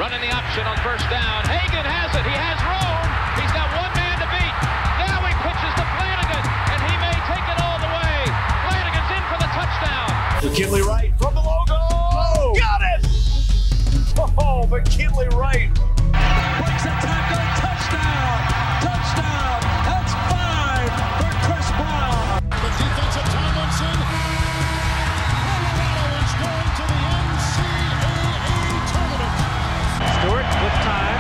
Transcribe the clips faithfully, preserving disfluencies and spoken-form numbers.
Running the option on first down. Hagan has it. He has room. He's got one man to beat. Now he pitches to Flanagan, and he may take it all the way. Flanagan's in for the touchdown. McKinley Wright from the logo. Oh, got it! Oh, McKinley Wright. Breaks a tackle. Touchdown. Touchdown. That's five for Chris Brown. The defensive Tomlinson. Colorado is going to the N C double A tournament. Stewart with time.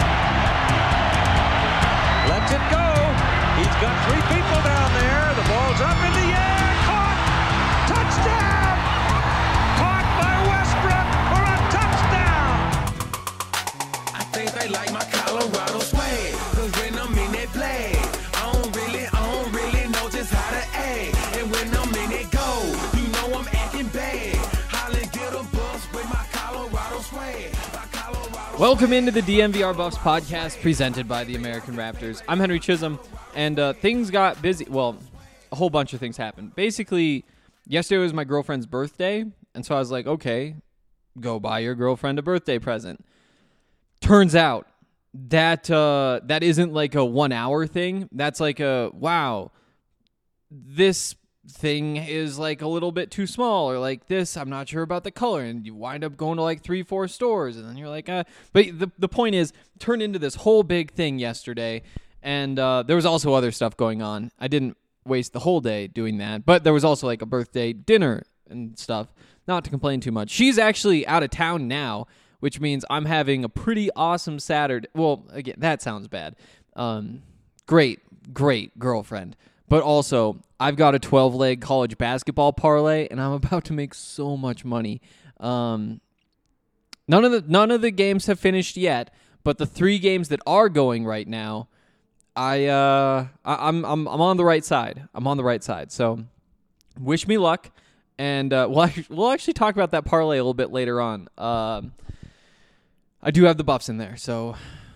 Lets it go. He's got three people down there. The ball's up in the air. Caught. Touchdown. Caught by Westbrook for a touchdown. I think they like my Colorado swag. Cause when I'm in that play, I don't really, I don't really know just how to act. And when I'm in it go, you know I'm acting bad. Holly get a bus with my Colorado swag. My Colorado Welcome into the D M V R Buffs podcast presented by the American Raptors. I'm Henry Chisholm, and uh, things got busy. Well, a whole bunch of things happened. Basically, yesterday was my girlfriend's birthday, and so I was like, okay, go buy your girlfriend a birthday present. Turns out that uh, that isn't like a one-hour thing. That's like a, wow, this thing is like a little bit too small, or like this, I'm not sure about the color, and you wind up going to like three, four stores, and then you're like, uh, but the, the point is, turned into this whole big thing yesterday, and uh, there was also other stuff going on. I didn't waste the whole day doing that, but there was also like a birthday dinner and stuff, not to complain too much. She's actually out of town now, which means I'm having a pretty awesome Saturday. Well, again, that sounds bad. Um, great, great girlfriend. But also, I've got a twelve-leg college basketball parlay, and I'm about to make so much money. Um, none of the none of the games have finished yet, but the three games that are going right now, I uh, I, I'm I'm I'm on the right side. I'm on the right side. So, wish me luck, and uh, we'll actually, we'll actually talk about that parlay a little bit later on. Um, I do have the Buffs in there, so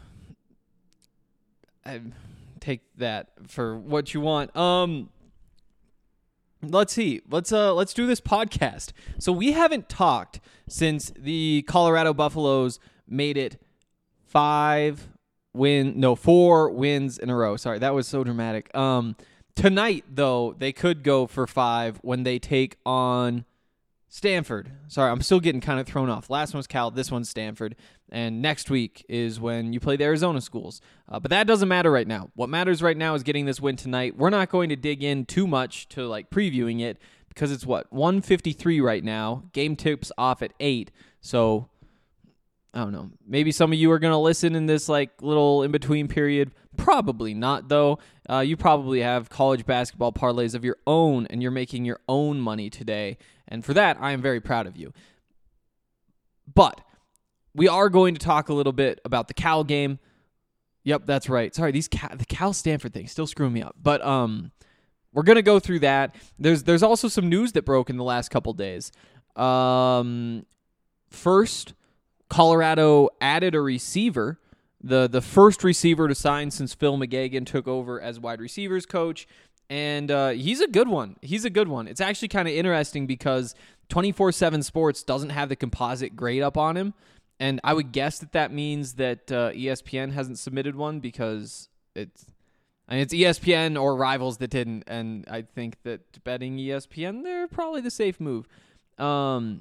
I take that for what you want. Um, let's see. Let's uh, let's do this podcast. So we haven't talked since the Colorado Buffaloes made it five win, no four wins in a row. Sorry, that was so dramatic. Um, tonight though, they could go for five when they take on Stanford. Sorry, I'm still getting kind of thrown off. Last one was Cal, this one's Stanford. And next week is when you play the Arizona schools. Uh, but that doesn't matter right now. What matters right now is getting this win tonight. We're not going to dig in too much to like previewing it because it's what, one fifty-three right now. Game tips off at eight. So, I don't know. Maybe some of you are going to listen in this like little in-between period. Probably not, though. Uh, you probably have college basketball parlays of your own, and you're making your own money today. And for that, I am very proud of you. But we are going to talk a little bit about the Cal game. Yep, that's right. Sorry, these Cal, the Cal Stanford thing still screwing me up. But um, we're gonna go through that. There's there's also some news that broke in the last couple days. Um, first, Colorado added a receiver, the the first receiver to sign since Phil McGagan took over as wide receivers coach. And uh, he's a good one. He's a good one. It's actually kind of interesting because twenty-four seven Sports doesn't have the composite grade up on him. And I would guess that that means that uh, E S P N hasn't submitted one because it's, I mean, it's E S P N or Rivals that didn't. And I think that betting E S P N, they're probably the safe move. Um,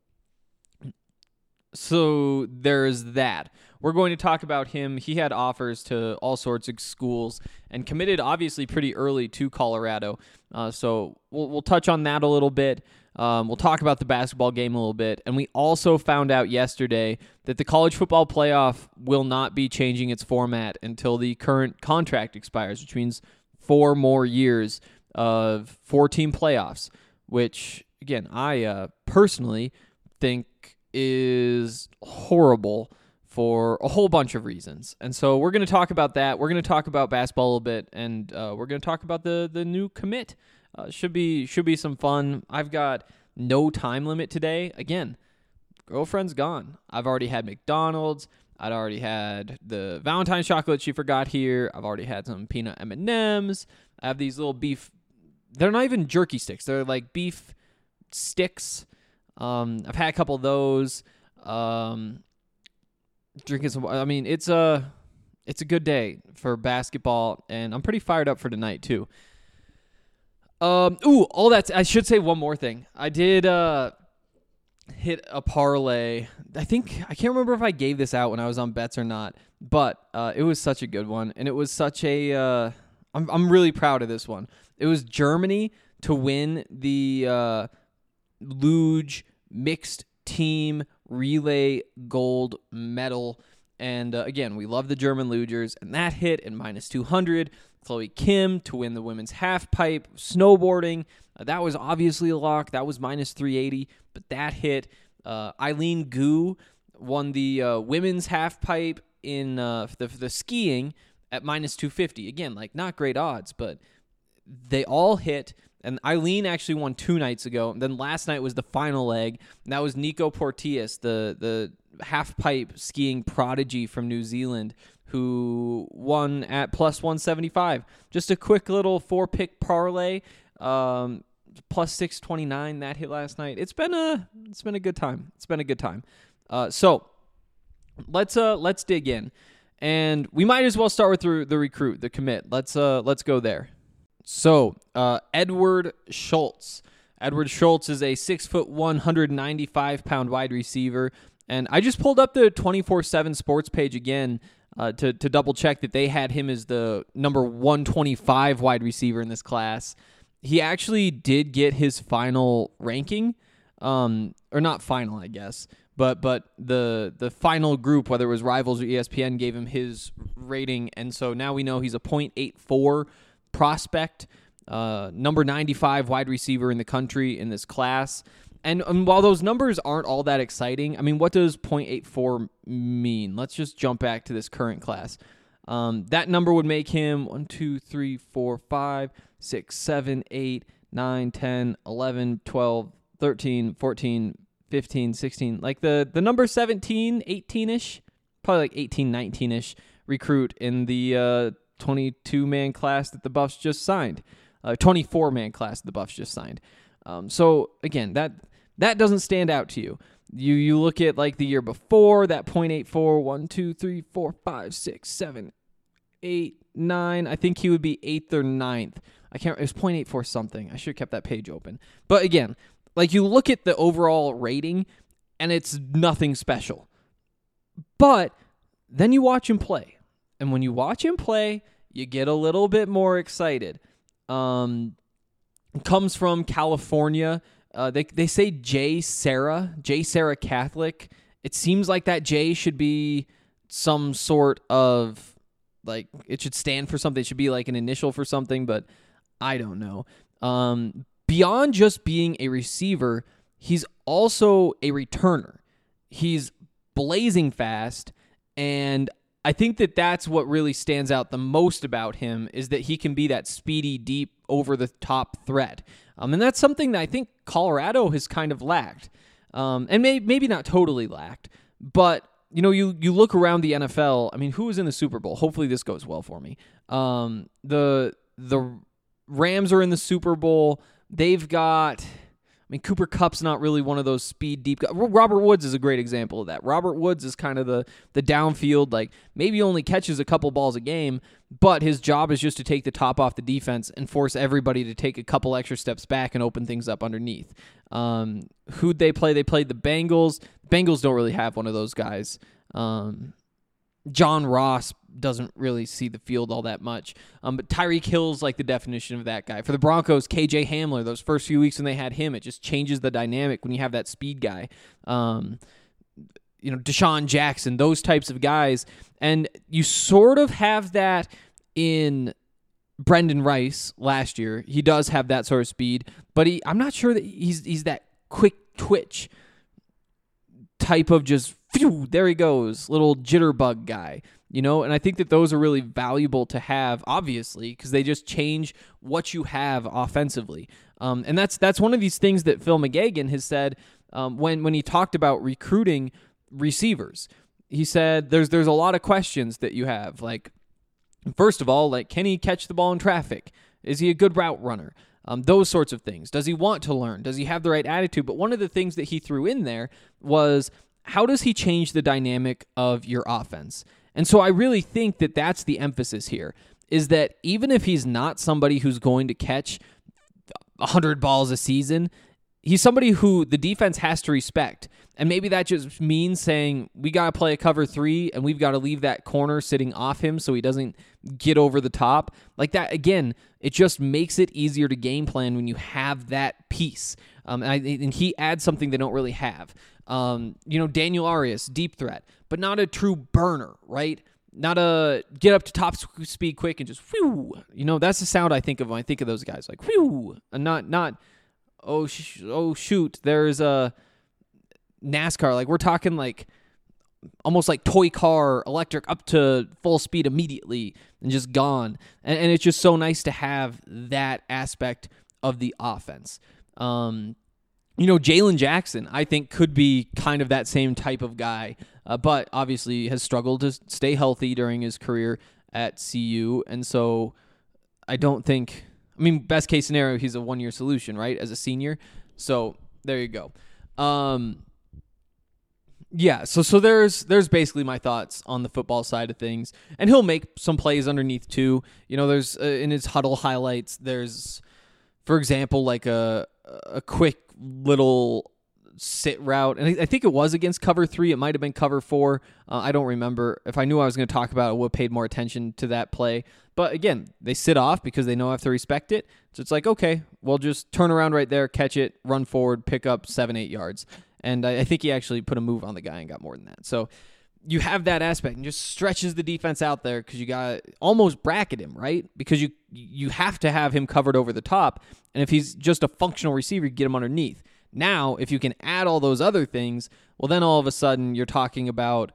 so there's that. We're going to talk about him. He had offers to all sorts of schools and committed obviously pretty early to Colorado. Uh, so we'll we'll touch on that a little bit. Um, we'll talk about the basketball game a little bit. And we also found out yesterday that the college football playoff will not be changing its format until the current contract expires, which means four more years of four-team playoffs, which, again, I uh, personally think is horrible for a whole bunch of reasons. And so we're going to talk about that. We're going to talk about basketball a little bit, and uh, we're going to talk about the the new commit. Uh, should be should be some fun. I've got no time limit today. Again, girlfriend's gone. I've already had McDonald's. I'd already had the Valentine's chocolate she forgot here. I've already had some peanut M and M's. I have these little beef. They're not even jerky sticks. They're like beef sticks. Um, I've had a couple of those. Um, drinking some. I mean, it's a it's a good day for basketball, and I'm pretty fired up for tonight too. Um, ooh, all that. I should say one more thing. I did uh hit a parlay. I think I can't remember if I gave this out when I was on bets or not, but uh, it was such a good one, and it was such a. Uh, I'm I'm really proud of this one. It was Germany to win the uh, luge mixed team relay gold medal. And uh, again, we love the German lugers, and that hit in minus two hundred. Chloe Kim to win the women's half pipe snowboarding. Uh, that was obviously a lock. That was minus three eighty, but that hit. Uh, Eileen Gu won the uh, women's half pipe in uh, the, the skiing at minus two fifty. Again, like not great odds, but they all hit. And Eileen actually won two nights ago. And then last night was the final leg. And that was Nico Porteous, the the half pipe skiing prodigy from New Zealand, who won at plus one seventy-five. Just a quick little four pick parlay, um, plus six twenty-nine. That hit last night. It's been a it's been a good time. It's been a good time. Uh, so let's uh let's dig in, and we might as well start with the, the recruit, the commit. Let's uh let's go there. So, uh, Edward Schultz. Edward Schultz is a six foot one hundred ninety-five pound wide receiver, and I just pulled up the twenty-four seven Sports page again uh, to to double check that they had him as the number one twenty-five wide receiver in this class. He actually did get his final ranking, um, or not final, I guess, but but the the final group, whether it was Rivals or E S P N, gave him his rating, and so now we know he's a point eight four prospect, uh, number ninety-five wide receiver in the country in this class. And um, while those numbers aren't all that exciting, I mean, what does point eight four mean? Let's just jump back to this current class. Um, that number would make him one, two, three, four, five, six, seven, eight, nine, ten, eleven, twelve, thirteen, fourteen, fifteen, sixteen. Like the, the number seventeen, eighteen-ish, probably like eighteen, nineteen-ish recruit in the uh, twenty-two man class that the Buffs just signed, uh, twenty-four man class that the Buffs just signed. Um, so again, that that doesn't stand out to you. You you look at like the year before, that point eight four, one, two, three, four, five, six, seven, eight, nine. I think he would be eighth or ninth. I can't. It was point eight four something. I should have kept that page open. But again, like you look at the overall rating, and it's nothing special. But then you watch him play. And when you watch him play, you get a little bit more excited. Um, comes from California. Uh, they they say J. Sarah, J. Sarah Catholic. It seems like that J should be some sort of, like, it should stand for something. It should be like an initial for something, but I don't know. Um, beyond just being a receiver, he's also a returner. He's blazing fast, and I think that that's what really stands out the most about him, is that he can be that speedy, deep, over-the-top threat. Um, and that's something that I think Colorado has kind of lacked. Um, and may, maybe not totally lacked, but you know, you you look around the N F L, I mean, who was in the Super Bowl? Hopefully this goes well for me. Um, the the Rams are in the Super Bowl. They've got... I mean, Cooper Kupp's not really one of those speed deep guys. Robert Woods is a great example of that. Robert Woods is kind of the the downfield, like maybe only catches a couple balls a game, but his job is just to take the top off the defense and force everybody to take a couple extra steps back and open things up underneath. Um, who'd they play? They played the Bengals. Bengals don't really have one of those guys. Um, John Ross doesn't really see the field all that much. Um, but Tyreek Hill's like the definition of that guy. For the Broncos, K J Hamler, those first few weeks when they had him, it just changes the dynamic when you have that speed guy. Um, you know, Deshaun Jackson, those types of guys. And you sort of have that in Brendan Rice last year. He does have that sort of speed, but he I'm not sure that he's he's that quick twitch type of just, phew, there he goes, little jitterbug guy, you know? And I think that those are really valuable to have, obviously, because they just change what you have offensively. Um, and that's that's one of these things that Phil McGagan has said um, when, when he talked about recruiting receivers. He said there's there's a lot of questions that you have. Like, first of all, like, can he catch the ball in traffic? Is he a good route runner? Um, those sorts of things. Does he want to learn? Does he have the right attitude? But one of the things that he threw in there was how does he change the dynamic of your offense? And so I really think that that's the emphasis here, is that even if he's not somebody who's going to catch one hundred balls a season, he's somebody who the defense has to respect. And maybe that just means saying, we got to play a cover three and we've got to leave that corner sitting off him so he doesn't get over the top. Like that, again, it just makes it easier to game plan when you have that piece. Um, and, I, and he adds something they don't really have. Um, you know, Daniel Arias, deep threat, but not a true burner, right? Not a get up to top speed quick and just whew. You know, that's the sound I think of when I think of those guys, like whew, and not not oh sh- oh shoot, there's a NASCAR. Like we're talking like almost like toy car electric up to full speed immediately and just gone. And, and it's just so nice to have that aspect of the offense. Um, you know, Jalen Jackson, I think, could be kind of that same type of guy, uh, but obviously has struggled to stay healthy during his career at C U. And so I don't think, I mean, best case scenario, he's a one-year solution, right, as a senior. So there you go. Um, yeah, so so there's there's basically my thoughts on the football side of things. And he'll make some plays underneath, too. You know, there's, uh, in his huddle highlights, there's, for example, like a a quick little sit route. And I think it was against cover three. It might have been cover four. Uh, I don't remember. If I knew I was going to talk about it, I would have paid more attention to that play. But again, they sit off because they know I have to respect it. So it's like, okay, we'll just turn around right there, catch it, run forward, pick up seven, eight yards. And I, I think he actually put a move on the guy and got more than that. So you have that aspect and just stretches the defense out there because you got to almost bracket him, right? Because you you have to have him covered over the top. And if he's just a functional receiver, you get him underneath. Now, if you can add all those other things, well, then all of a sudden you're talking about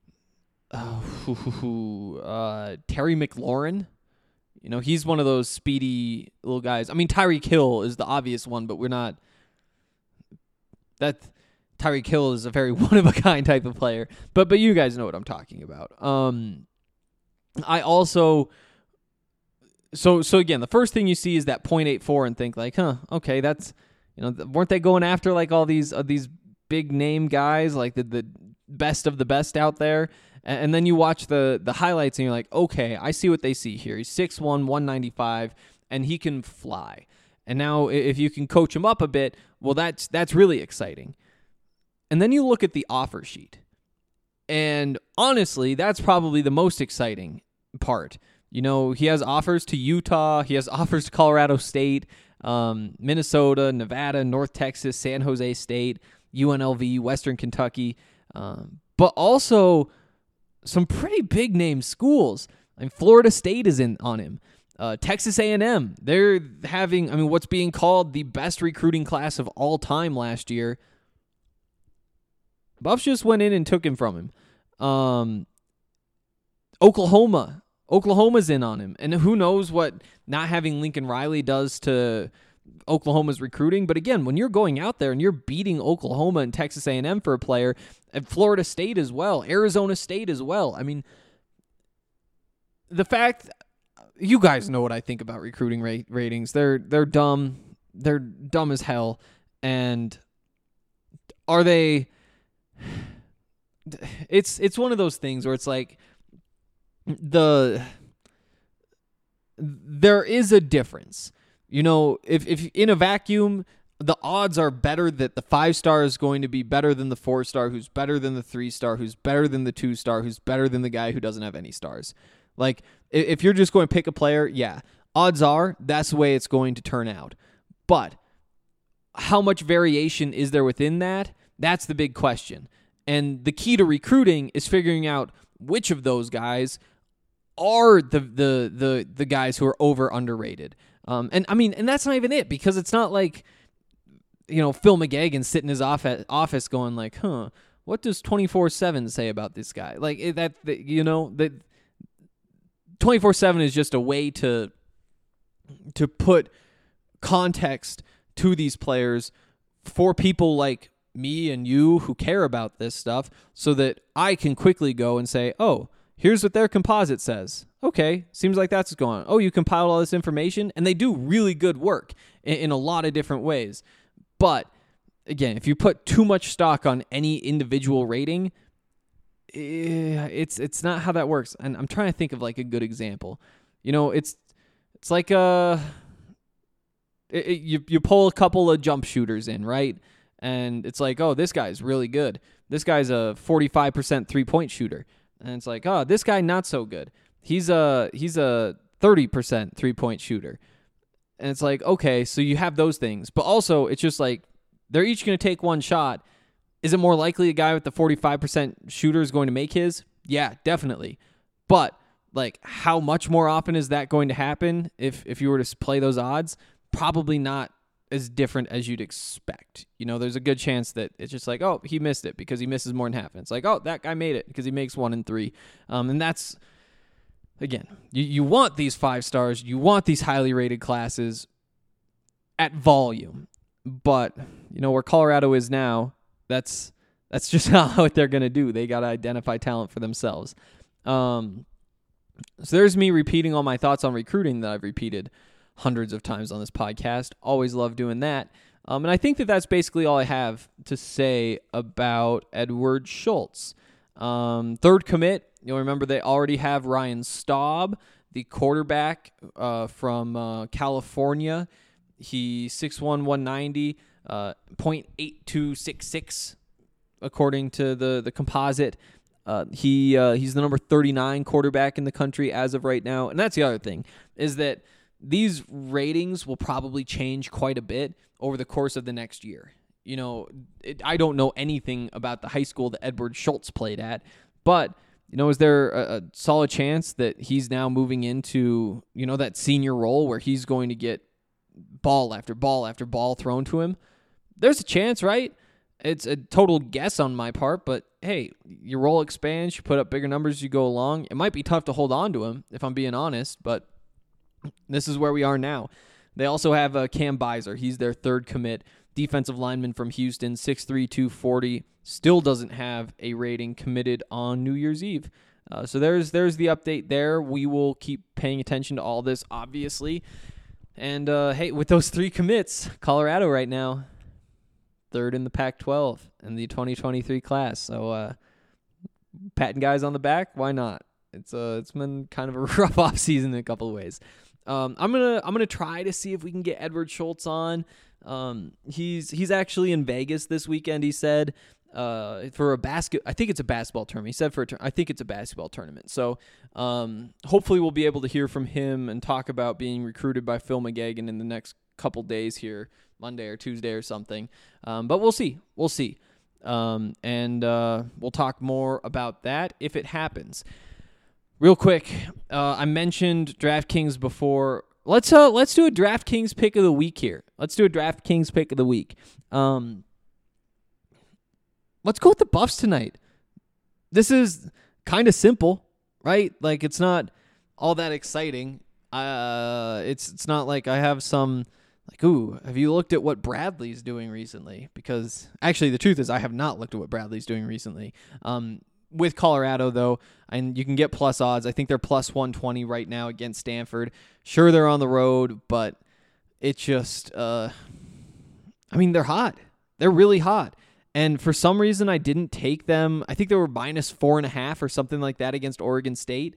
oh, uh, Terry McLaurin. You know, he's one of those speedy little guys. I mean, Tyreek Hill is the obvious one, but we're not. That Tyreek Hill is a very one-of-a-kind type of player. But but you guys know what I'm talking about. Um, I also. So so again, the first thing you see is that point eight four and think like, huh, okay, that's, you know, weren't they going after like all these uh, these big name guys, like the the best of the best out there? And, and then you watch the the highlights and you're like, okay, I see what they see here. He's six one, one ninety-five, and he can fly. And now if you can coach him up a bit, well, that's that's really exciting. And then you look at the offer sheet. And honestly, that's probably the most exciting part. You know, he has offers to Utah. He has offers to Colorado State, um, Minnesota, Nevada, North Texas, San Jose State, U N L V, Western Kentucky, um, but also some pretty big name schools. I mean, Florida State is in on him. Uh, Texas A and M, they're having, I mean, what's being called the best recruiting class of all time last year. Buffs just went in and took him from him. Um, Oklahoma. Oklahoma's in on him. And who knows what not having Lincoln Riley does to Oklahoma's recruiting. But again, when you're going out there and you're beating Oklahoma and Texas A and M for a player, and Florida State as well, Arizona State as well. I mean, the fact, you guys know what I think about recruiting rate, ratings. They're they're dumb. They're dumb as hell. And are they... It's it's one of those things where it's like, the there is a difference. You know, if if in a vacuum, the odds are better that the five star is going to be better than the four star, who's better than the three star, who's better than the two star, who's better than the guy who doesn't have any stars. Like, if you're just going to pick a player, yeah, odds are that's the way it's going to turn out. But how much variation is there within that? That's the big question. And the key to recruiting is figuring out which of those guys are the the the the guys who are over underrated. Um, and I mean, and that's not even it, because it's not like, you know, Phil McGagan sitting in his office office going like, huh, what does twenty-four seven say about this guy? Like that, that you know, that twenty-four seven is just a way to to put context to these players for people like me and you who care about this stuff, so that I can quickly go and say, oh, here's what their composite says. Okay, seems like that's what's going on. Oh, you compiled all this information? And they do really good work in, in a lot of different ways. But again, if you put too much stock on any individual rating, it's it's not how that works. And I'm trying to think of like a good example. You know, it's it's like a it, it, you you pull a couple of jump shooters in, right? And it's like, oh, this guy's really good. This guy's a forty-five percent three-point shooter. And it's like, oh, this guy not so good. He's a he's a thirty percent three-point shooter. And it's like, okay, so you have those things. But also, it's just like, they're each going to take one shot. Is it more likely a guy with the forty-five percent shooter is going to make his? Yeah, definitely. But, like, how much more often is that going to happen if, if you were to play those odds? Probably not as different as you'd expect. You know, there's a good chance that it's just like, oh, he missed it because he misses more than half. And it's like, oh, that guy made it because he makes one in three. Um, and that's... Again, you, you want these five stars, you want these highly rated classes at volume, but you know where Colorado is now, that's that's just not what they're gonna do. They gotta identify talent for themselves. Um, so there's me repeating all my thoughts on recruiting that I've repeated hundreds of times on this podcast. Always love doing that, um, and I think that that's basically all I have to say about Edward Schultz. Um, third commit. You'll remember they already have Ryan Staub, the quarterback uh, from uh, California. He's six one, one ninety, uh, point eight two six six, according to the, the composite. Uh, he uh, he's the number thirty-nine quarterback in the country as of right now. And that's the other thing, is that these ratings will probably change quite a bit over the course of the next year. You know, it, I don't know anything about the high school that Edward Schultz played at, but... You know, is there a, a solid chance that he's now moving into, you know, that senior role where he's going to get ball after ball after ball thrown to him? There's a chance, right? It's a total guess on my part, but hey, your role expands, you put up bigger numbers as you go along. It might be tough to hold on to him, if I'm being honest, but this is where we are now. They also have uh, Cam Beiser. He's their third commit. Defensive lineman from Houston, six three, two forty, still doesn't have a rating, committed on New Year's Eve. Uh, so there's there's the update there. We will keep paying attention to all this, obviously. And, uh, hey, with those three commits, Colorado right now, third in the Pac twelve in the twenty twenty-three class. So uh, patting guys on the back, why not? It's uh, it's been kind of a rough offseason in a couple of ways. Um, I'm gonna I'm gonna try to see if we can get Edward Schultz on. Um, he's he's actually in Vegas this weekend. He said uh, for a basket. I think it's a basketball tournament. He said for a tur- I think it's a basketball tournament. So um, hopefully we'll be able to hear from him and talk about being recruited by Phil McGagan in the next couple days here, Monday or Tuesday or something. Um, but we'll see. We'll see. Um, and uh, we'll talk more about that if it happens. Real quick, uh, I mentioned DraftKings before. Let's uh let's do a DraftKings pick of the week here. Let's do a DraftKings pick of the week. Um, let's go with the Buffs tonight. This is kind of simple, right? Like it's not all that exciting. Uh, it's it's not like I have some like, ooh, have you looked at what Bradley's doing recently? Because actually, the truth is, I have not looked at what Bradley's doing recently. Um. With Colorado, though, and you can get plus odds. I think they're plus one twenty right now against Stanford. Sure, they're on the road, but it just, uh, I mean, they're hot. They're really hot. And for some reason, I didn't take them. I think they were minus four and a half or something like that against Oregon State.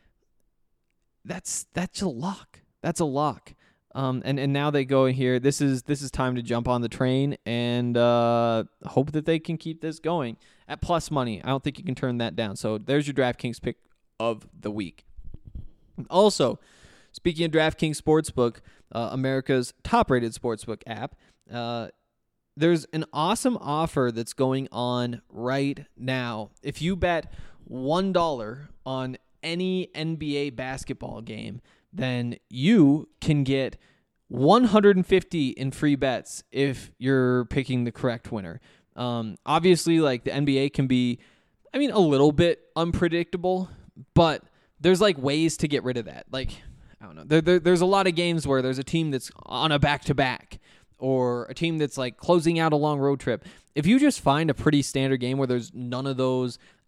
That's that's a lock. That's a lock. Um, and, and now they go in here. This is this is time to jump on the train and uh, hope that they can keep this going at plus money. I don't think you can turn that down. So there's your DraftKings pick of the week. Also, speaking of DraftKings Sportsbook, uh, America's top-rated sportsbook app, uh, there's an awesome offer that's going on right now. If you bet one dollar on any N B A basketball game, then you can get one hundred fifty in free bets if you're picking the correct winner. Um, obviously, like the N B A can be, I mean, a little bit unpredictable, but there's like ways to get rid of that. Like, I don't know. There, there, there's a lot of games where there's a team that's on a back-to-back or a team that's like closing out a long road trip. If you just find a pretty standard game where there's none of those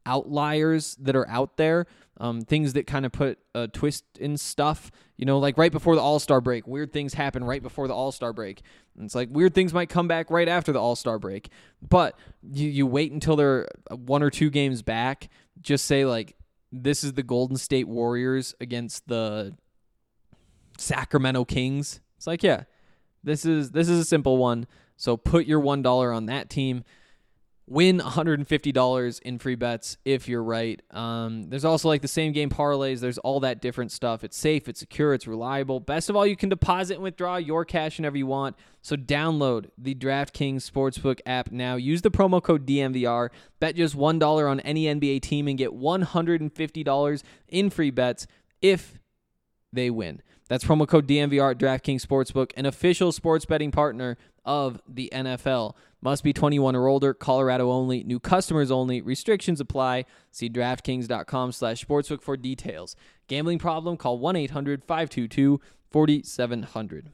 outliers that are out there, um, things that kind of put a twist in stuff. You know, like right before the All-Star break, weird things happen right before the All-Star break. And it's like weird things might come back right after the All-Star break. But you, you wait until they're one or two games back. Just say, like, this is the Golden State Warriors against the Sacramento Kings. It's like, yeah, this is this is a simple one. So put your one dollar on that team. Win one hundred fifty dollars in free bets if you're right. Um, there's also like the same game parlays. There's all that different stuff. It's safe, it's secure, it's reliable. Best of all, you can deposit and withdraw your cash whenever you want. So download the DraftKings Sportsbook app now. Use the promo code D M V R. Bet just one dollar on any N B A team and get one hundred fifty dollars in free bets if they win. That's promo code D M V R at DraftKings Sportsbook, an official sports betting partner of the N F L. Must be twenty-one or older, Colorado only, new customers only, restrictions apply. See DraftKings.com slash sportsbook for details. Gambling problem? Call one eight hundred five two two four seven zero zero.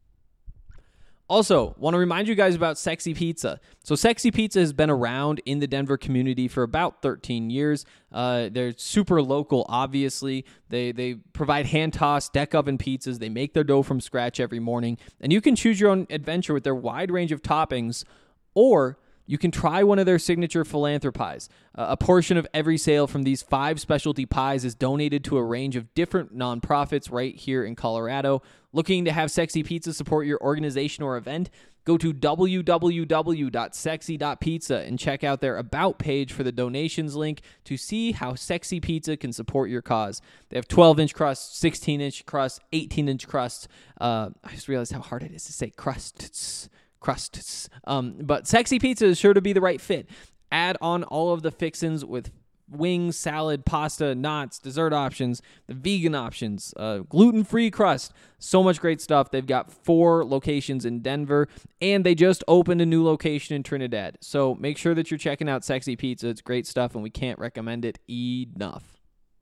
Also, want to remind you guys about Sexy Pizza. So Sexy Pizza has been around in the Denver community for about thirteen years. Uh, they're super local, obviously. They they provide hand-tossed deck oven pizzas. They make their dough from scratch every morning. And you can choose your own adventure with their wide range of toppings, or you can try one of their signature philanthropies. Uh, a portion of every sale from these five specialty pies is donated to a range of different nonprofits right here in Colorado. Looking to have Sexy Pizza support your organization or event? Go to w w w dot sexy dot pizza and check out their About page for the donations link to see how Sexy Pizza can support your cause. They have twelve-inch crusts, sixteen-inch crusts, eighteen-inch crusts. Uh, I just realized how hard it is to say crusts. Crusts. Um, but Sexy Pizza is sure to be the right fit. Add on all of the fixins with wings, salad, pasta, knots, dessert options, the vegan options, uh, gluten-free crust. So much great stuff. They've got four locations in Denver, and they just opened a new location in Trinidad. So make sure that you're checking out Sexy Pizza. It's great stuff, and we can't recommend it enough.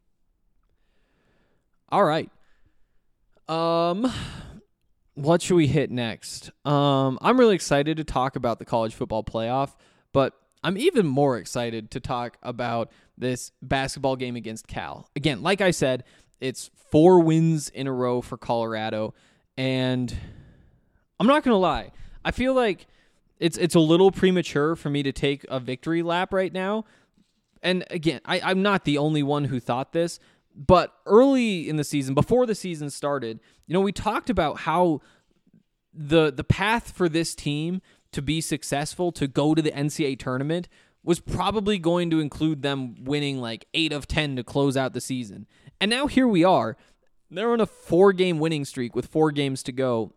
All right. Um... What should we hit next? Um, I'm really excited to talk about the college football playoff, but I'm even more excited to talk about this basketball game against Cal. Again, like I said, it's four wins in a row for Colorado, and I'm not going to lie. I feel like it's it's a little premature for me to take a victory lap right now. And again, I, I'm not the only one who thought this. But early in the season, before the season started, you know, we talked about how the the path for this team to be successful, to go to the N C double A tournament, was probably going to include them winning like eight of ten to close out the season. And now here we are. They're on a four-game winning streak with four games to go.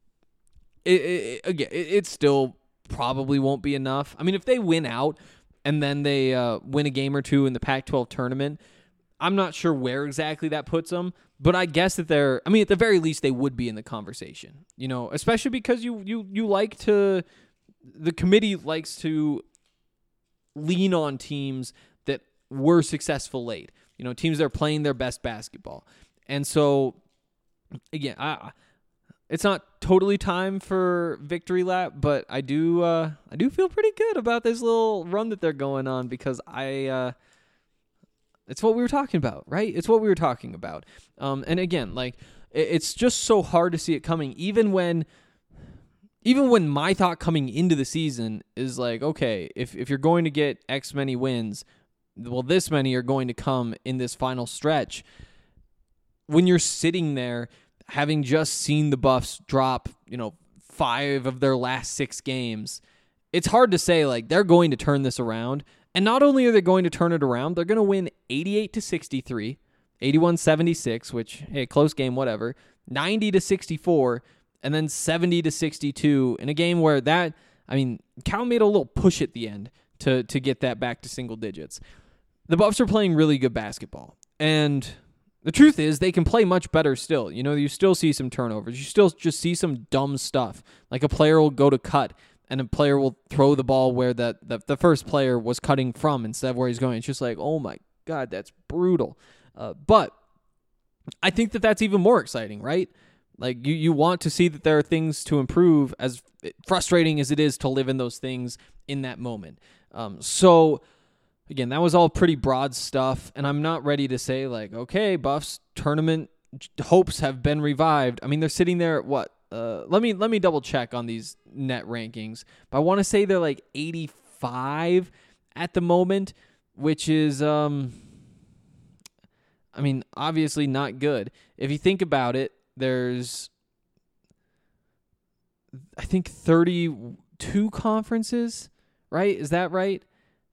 It, it, again, it, it still probably won't be enough. I mean, if they win out and then they uh, win a game or two in the Pac twelve tournament, I'm not sure where exactly that puts them, but I guess that they're, I mean, at the very least, they would be in the conversation, you know, especially because you, you, you like to, the committee likes to lean on teams that were successful late, you know, teams that are playing their best basketball. And so, again, I, it's not totally time for victory lap, but I do, uh, I do feel pretty good about this little run that they're going on, because I, uh, it's what we were talking about, right? It's what we were talking about. Um, and again, like, it's just so hard to see it coming, even when, even when my thought coming into the season is like, okay, if, if you're going to get X many wins, well, this many are going to come in this final stretch. When you're sitting there, having just seen the Buffs drop, you know, five of their last six games, it's hard to say, like, they're going to turn this around. And not only are they going to turn it around, they're going to win eighty-eight to sixty-three, eighty-one seventy-six, which, hey, close game, whatever, ninety to sixty-four, and then seventy to sixty-two in a game where that, I mean, Cal made a little push at the end to, to get that back to single digits. The Buffs are playing really good basketball. And the truth is, they can play much better still. You know, you still see some turnovers. You still just see some dumb stuff. Like a player will go to cut, and a player will throw the ball where the, the, the first player was cutting from instead of where he's going. It's just like, oh my God, that's brutal. Uh, but I think that that's even more exciting, right? Like, you, you want to see that there are things to improve, as frustrating as it is to live in those things in that moment. Um, so, again, that was all pretty broad stuff, and I'm not ready to say, like, okay, Buffs tournament hopes have been revived. I mean, they're sitting there at what? Uh, let me let me double check on these net rankings, but I want to say they're like eighty-five at the moment, which is, um, I mean, obviously not good. If you think about it, there's, I think, thirty-two conferences, right? Is that right?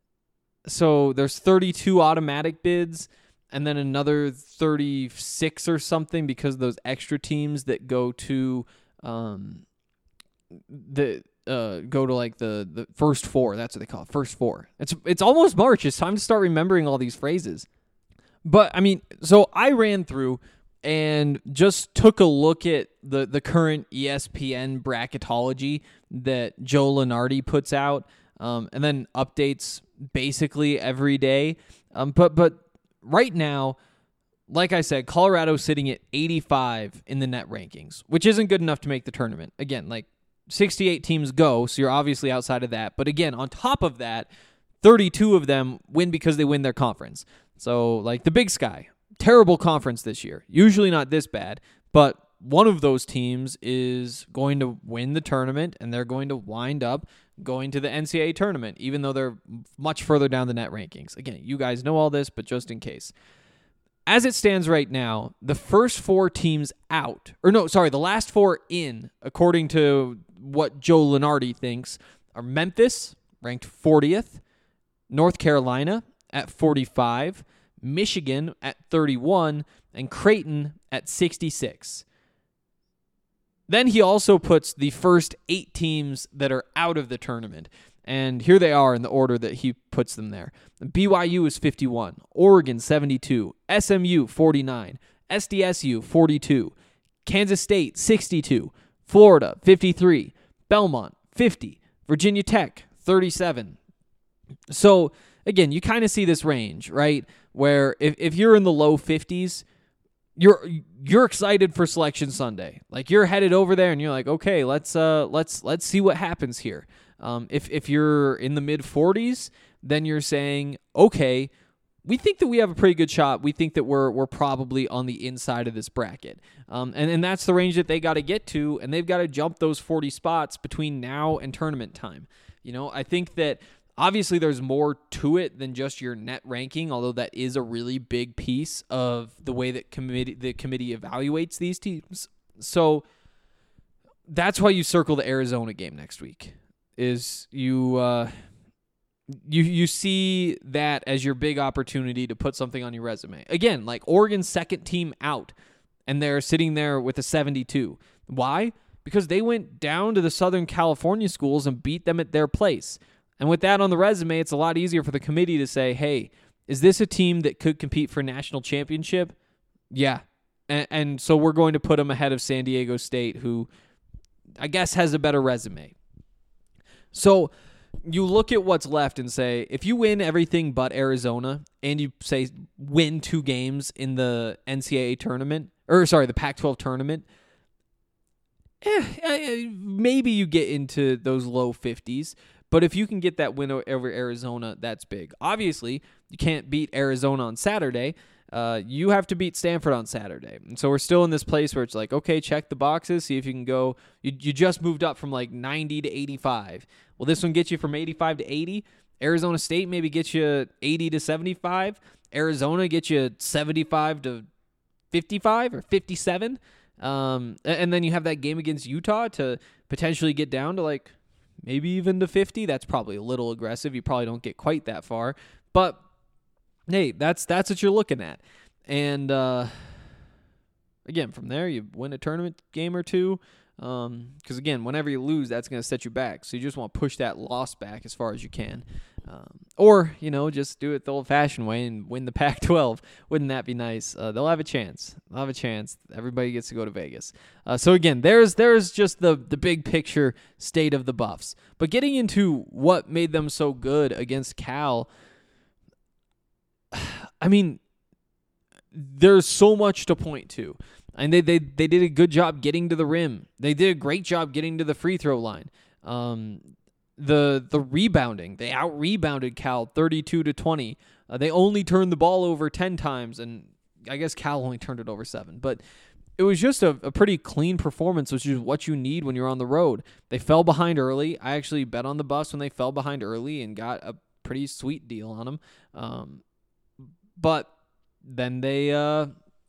So there's thirty-two automatic bids, and then another thirty-six or something because of those extra teams that go to um the uh go to like the the first four. That's what they call it, first four. It's it's almost March. It's time to start remembering all these phrases. But I mean, so I ran through and just took a look at the the current E S P N bracketology that Joe Lunardi puts out, um, and then updates basically every day. Um, but but right now, like I said, Colorado's sitting at eighty-five in the net rankings, which isn't good enough to make the tournament. Again, like sixty-eight teams go, so you're obviously outside of that. But again, on top of that, thirty-two of them win because they win their conference. So like the Big Sky, terrible conference this year. Usually not this bad, but one of those teams is going to win the tournament, and they're going to wind up going to the N C double A tournament, even though they're much further down the net rankings. Again, you guys know all this, but just in case. As it stands right now, the first four teams out, or no, sorry, the last four in, according to what Joe Lunardi thinks, are Memphis, ranked fortieth, North Carolina at forty-five, Michigan at thirty-one, and Creighton at sixty-six. Then he also puts the first eight teams that are out of the tournament. And here they are in the order that he puts them there. B Y U is fifty-one, Oregon seventy-two, S M U forty-nine, S D S U forty-two, Kansas State sixty-two, Florida fifty-three, Belmont fifty, Virginia Tech thirty-seven. So, again, you kind of see this range, right? Where if, if you're in the low fifties, you're you're excited for Selection Sunday. Like you're headed over there and you're like, okay, let's uh let's let's see what happens here. Um, if if you're in the mid forties, then you're saying, okay, we think that we have a pretty good shot. We think that we're we're probably on the inside of this bracket. Um, and, and that's the range that they got to get to, and they've got to jump those forty spots between now and tournament time. You know, I think that obviously there's more to it than just your net ranking, although that is a really big piece of the way that committee the committee evaluates these teams. So that's why you circle the Arizona game next week. Is you uh, you you see that as your big opportunity to put something on your resume. Again, like Oregon's second team out, and they're sitting there with a seventy-two. Why? Because they went down to the Southern California schools and beat them at their place. And with that on the resume, it's a lot easier for the committee to say, hey, is this a team that could compete for a national championship? Yeah. And, and so we're going to put them ahead of San Diego State, who I guess has a better resume. So you look at what's left and say, if you win everything but Arizona and you say win two games in the N C double A tournament, or sorry, the Pac twelve tournament, eh, maybe you get into those low fifties. But if you can get that win over Arizona, that's big. Obviously, you can't beat Arizona on Saturday. Uh, you have to beat Stanford on Saturday. And so we're still in this place where it's like, okay, check the boxes, see if you can go. You, you just moved up from like ninety to eighty-five. Well, this one gets you from eighty-five to eighty. Arizona State maybe gets you eighty to seventy-five. Arizona gets you seventy-five to fifty-five or fifty-seven. Um, and then you have that game against Utah to potentially get down to like maybe even to fifty. That's probably a little aggressive. You probably don't get quite that far. But hey, that's that's what you're looking at. And uh, again, from there, you win a tournament game or two. Because, um, again, whenever you lose, that's going to set you back. So you just want to push that loss back as far as you can. Um, or, you know, just do it the old-fashioned way and win the Pac twelve. Wouldn't that be nice? Uh, they'll have a chance. They'll have a chance. Everybody gets to go to Vegas. Uh, so, again, there's there's just the, the big picture state of the Buffs. But getting into what made them so good against Cal, I mean, there's so much to point to. And they, they they did a good job getting to the rim. They did a great job getting to the free throw line. Um, the the rebounding. They out rebounded Cal thirty-two to twenty. Uh, they only turned the ball over ten times, and I guess Cal only turned it over seven. But it was just a, a pretty clean performance, which is what you need when you're on the road. They fell behind early. I actually bet on the Buffs when they fell behind early and got a pretty sweet deal on them. Um, but then they uh,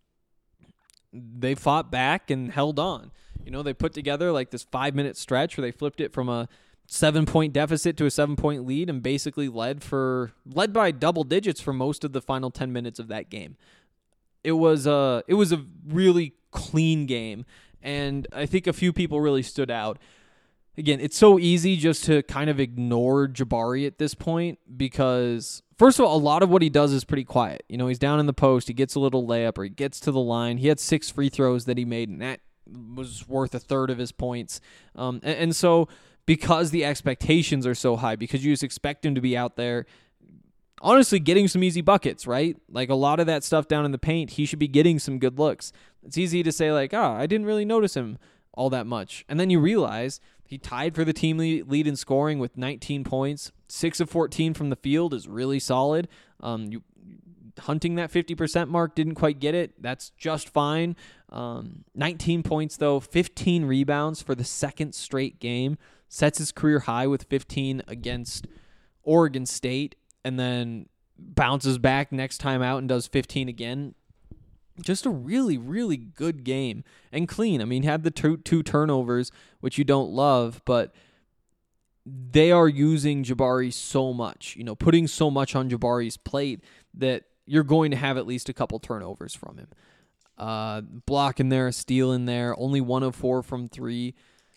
they fought back and held on. You know, they put together like this five-minute stretch where they flipped it from a seven-point deficit to a seven-point lead and basically led for led by double digits for most of the final ten minutes of that game. It was a it was a really clean game, and I think a few people really stood out. Again, it's so easy just to kind of ignore Jabari at this point because, first of all, a lot of what he does is pretty quiet. You know, he's down in the post, he gets a little layup, or he gets to the line. He had six free throws that he made, and that was worth a third of his points. Um, and, and so because the expectations are so high, because you just expect him to be out there, honestly, getting some easy buckets, right? Like a lot of that stuff down in the paint, he should be getting some good looks. It's easy to say like, oh, I didn't really notice him all that much. And then you realize he tied for the team lead in scoring with nineteen points. six of fourteen from the field is really solid. Um, you hunting that fifty percent mark, didn't quite get it. That's just fine. Um, nineteen points, though, fifteen rebounds for the second straight game. Sets his career high with fifteen against Oregon State, and then bounces back next time out and does fifteen again. Just a really, really good game and clean. I mean, had the two, two turnovers, which you don't love, but they are using Jabari so much, you know, putting so much on Jabari's plate that you're going to have at least a couple turnovers from him. Uh, block in there, a steal in there, only one of four from three.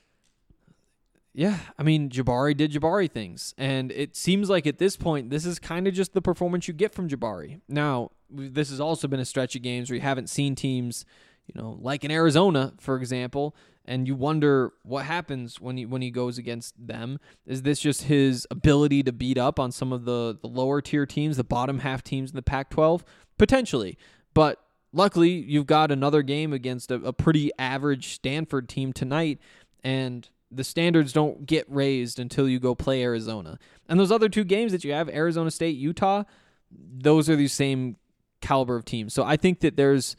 Yeah, I mean, Jabari did Jabari things, and it seems like at this point, this is kind of just the performance you get from Jabari. Now, this has also been a stretch of games where you haven't seen teams, you know, like in Arizona, for example, and you wonder what happens when he when he goes against them. Is this just his ability to beat up on some of the, the lower tier teams, the bottom half teams in the Pac twelve? Potentially, but luckily, you've got another game against a, a pretty average Stanford team tonight, and the standards don't get raised until you go play Arizona. And those other two games that you have, Arizona State, Utah, those are the same caliber of teams. So I think that there's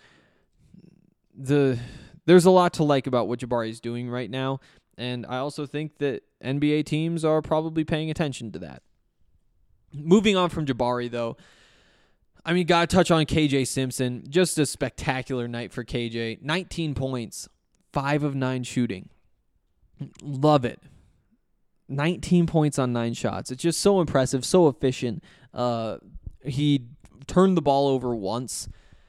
the there's a lot to like about what Jabari is doing right now, and I also think that N B A teams are probably paying attention to that. Moving on from Jabari, though, I mean, gotta touch on K J Simpson. Just a spectacular night for K J. nineteen points, five of nine shooting. Love it. nineteen points on nine shots. It's just so impressive, so efficient. Uh, he turned the ball over once.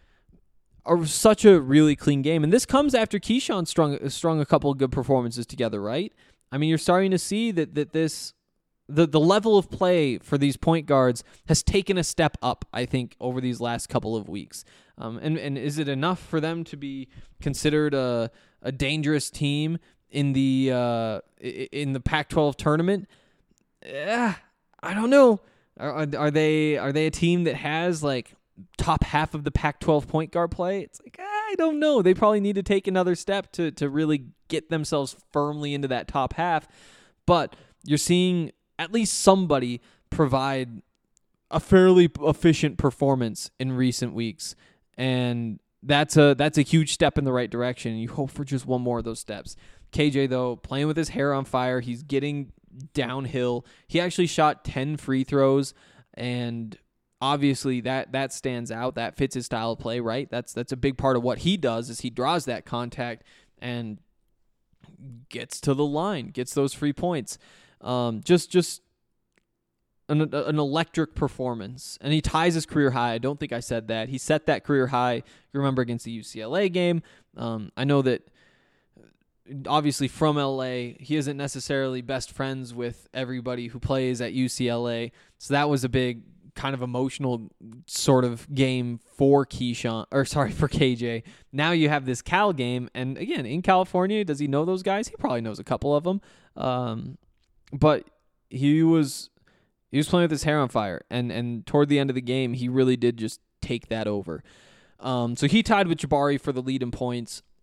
Or such a really clean game. And this comes after Keyshawn strung, strung a couple of good performances together, right? I mean, you're starting to see that that this the, the level of play for these point guards has taken a step up, I think, over these last couple of weeks. Um, and, and is it enough for them to be considered a, a dangerous team in the uh, in the Pac twelve tournament? Eh, I don't know. Are, are they are they a team that has like top half of the Pac twelve point guard play? It's like, I don't know. They probably need to take another step to to really get themselves firmly into that top half. But you're seeing at least somebody provide a fairly efficient performance in recent weeks, and that's a that's a huge step in the right direction. You hope for just one more of those steps. K J, though, playing with his hair on fire. He's getting downhill. He actually shot ten free throws, and obviously that that stands out. That fits his style of play, right? That's that's a big part of what he does is he draws that contact and gets to the line, gets those free points. Um, just just an, an electric performance. And he ties his career high. I don't think I said that. He set that career high, you remember, against the U C L A game. Um, I know that obviously from L A, he isn't necessarily best friends with everybody who plays at U C L A. So that was a big kind of emotional sort of game for Keyshawn, or sorry, for K J. Now you have this Cal game, and again, in California, does he know those guys? He probably knows a couple of them. Um, but he was he was playing with his hair on fire, and and toward the end of the game, he really did just take that over. Um, so he tied with Jabari for the lead in points.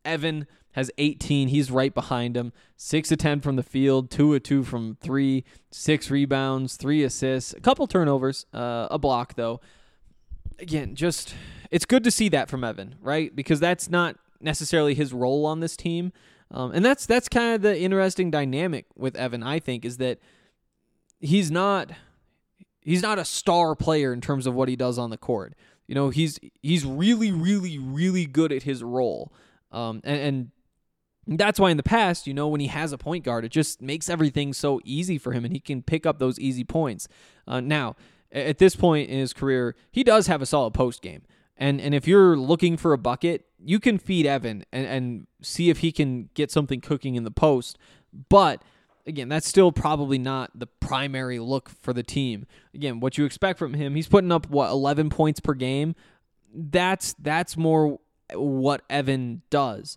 Evan has eighteen. He's right behind him. six of ten from the field, two of two from three, six rebounds, three assists, a couple turnovers, uh, a block, though. Again, just it's good to see that from Evan, right? Because that's not necessarily his role on this team. Um, and that's that's kind of the interesting dynamic with Evan, I think, is that he's not he's not a star player in terms of what he does on the court. You know, he's he's really, really, really good at his role. Um, and, and that's why in the past, you know, when he has a point guard, it just makes everything so easy for him, and he can pick up those easy points. Uh, now, at this point in his career, he does have a solid post game. And and if you're looking for a bucket, you can feed Evan and, and see if he can get something cooking in the post. But, again, that's still probably not the primary look for the team. Again, what you expect from him, he's putting up, what, eleven points per game? That's That's more what Evan does.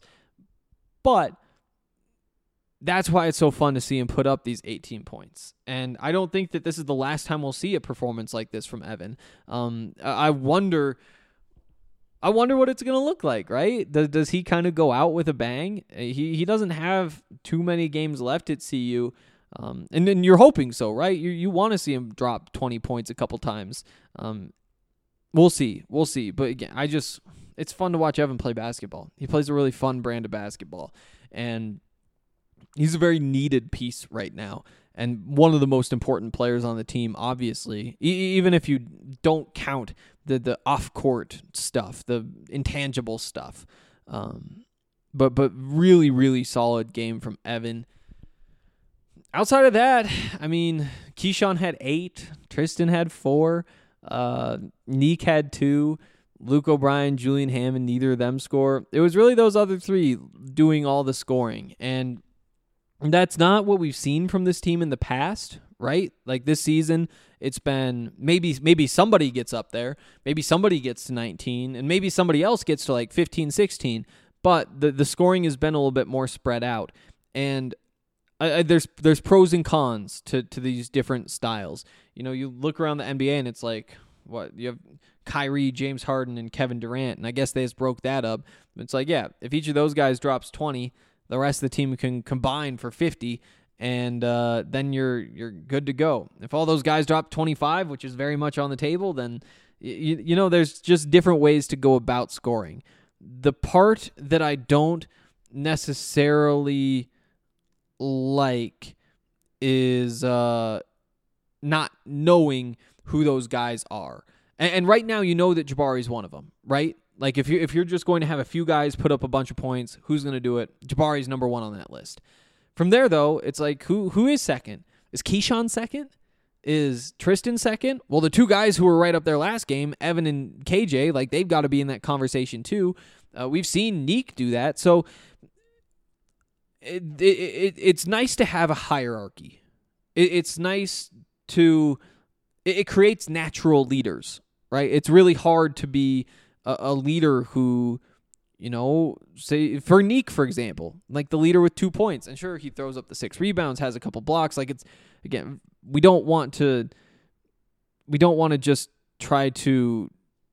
But that's why it's so fun to see him put up these eighteen points. And I don't think that this is the last time we'll see a performance like this from Evan. Um, I wonder... I wonder what it's going to look like, right? Does, does he kind of go out with a bang? He he doesn't have too many games left at C U, um, and then you're hoping so, right? You you want to see him drop twenty points a couple times. Um, we'll see, we'll see. But again, I just it's fun to watch Evan play basketball. He plays a really fun brand of basketball, and he's a very needed piece right now. And one of the most important players on the team, obviously, e- even if you don't count the the off-court stuff, the intangible stuff. Um, but but really, really solid game from Evan. Outside of that, I mean, Keyshawn had eight, Tristan had four, uh, Neek had two, Luke O'Brien, Julian Hammond, neither of them score. It was really those other three doing all the scoring, and that's not what we've seen from this team in the past, right? Like this season, it's been maybe maybe somebody gets up there, maybe somebody gets to nineteen, and maybe somebody else gets to like fifteen, sixteen, but the, the scoring has been a little bit more spread out. And I, I, there's there's pros and cons to, to these different styles. You know, you look around the N B A and it's like, what, you have Kyrie, James Harden, and Kevin Durant, and I guess they just broke that up. It's like, yeah, if each of those guys drops twenty, the rest of the team can combine for fifty, and uh, then you're you're good to go. If all those guys drop twenty-five, which is very much on the table, then you, you know there's just different ways to go about scoring. The part that I don't necessarily like is uh, not knowing who those guys are. And, and right now, you know that Jabari's one of them, right? Like, if you're, if you're just going to have a few guys put up a bunch of points, who's going to do it? Jabari's number one on that list. From there, though, it's like, who who is second? Is Keyshawn second? Is Tristan second? Well, the two guys who were right up there last game, Evan and K J, like, they've got to be in that conversation, too. Uh, we've seen Neek do that. So, it, it, it it's nice to have a hierarchy. It, it's nice to... It, it creates natural leaders, right? It's really hard to be a leader who, you know, say for Neek, for example, like the leader with two points. And sure, he throws up the six rebounds, has a couple blocks. Like it's, again, we don't want to, we don't want to just try to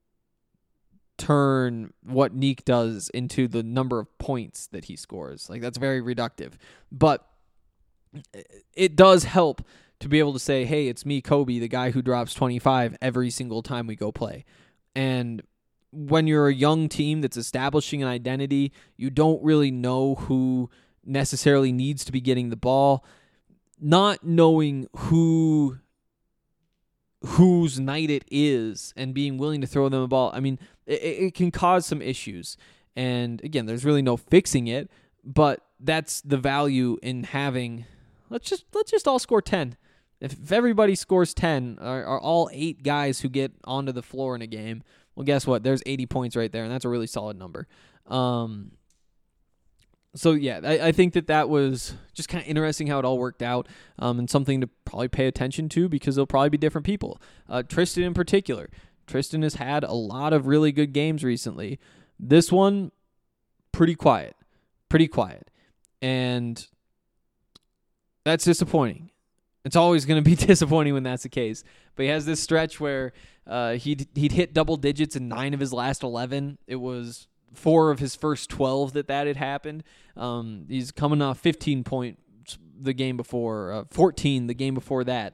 turn what Neek does into the number of points that he scores. Like that's very reductive. But it does help to be able to say, hey, it's me, Kobe, the guy who drops twenty-five every single time we go play. And when you're a young team that's establishing an identity, you don't really know who necessarily needs to be getting the ball. Not knowing who whose night it is and being willing to throw them a ball, I mean, it, it can cause some issues. And again, there's really no fixing it, but that's the value in having, let's just let's just all score ten. If, if everybody scores ten, are, are all eight guys who get onto the floor in a game, well, guess what? There's eighty points right there, and that's a really solid number. Um, so, yeah, I, I think that that was just kind of interesting how it all worked out, um, and something to probably pay attention to because they'll probably be different people. Uh, Tristan in particular. Tristan has had a lot of really good games recently. This one, pretty quiet. Pretty quiet. And that's disappointing. It's always going to be disappointing when that's the case. But he has this stretch where uh, he'd, he'd hit double digits in nine of his last eleven. It was four of his first twelve that that had happened. Um, he's coming off fifteen points the game before, uh, fourteen the game before that.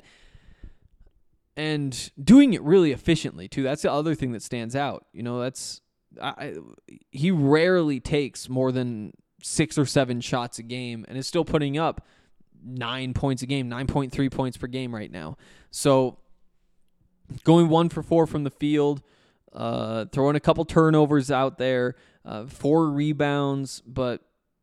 And doing it really efficiently, too. That's the other thing that stands out. You know, that's I, he rarely takes more than six or seven shots a game and is still putting up nine points a game, nine point three points per game right now. So going one for four from the field, uh, throwing a couple turnovers out there, uh, four rebounds, but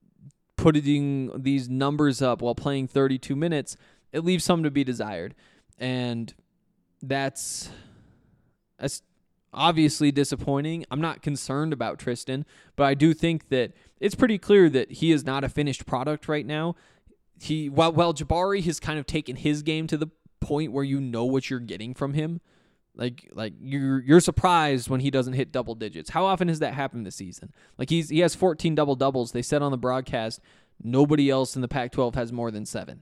putting these numbers up while playing thirty-two minutes, it leaves some to be desired. And that's, that's obviously disappointing. I'm not concerned about Tristan, but I do think that it's pretty clear that he is not a finished product right now. He while while Jabari has kind of taken his game to the point where you know what you're getting from him. Like like you're you're surprised when he doesn't hit double digits. How often has that happened this season? Like he's he has fourteen double doubles. They said on the broadcast nobody else in the Pac twelve has more than seven.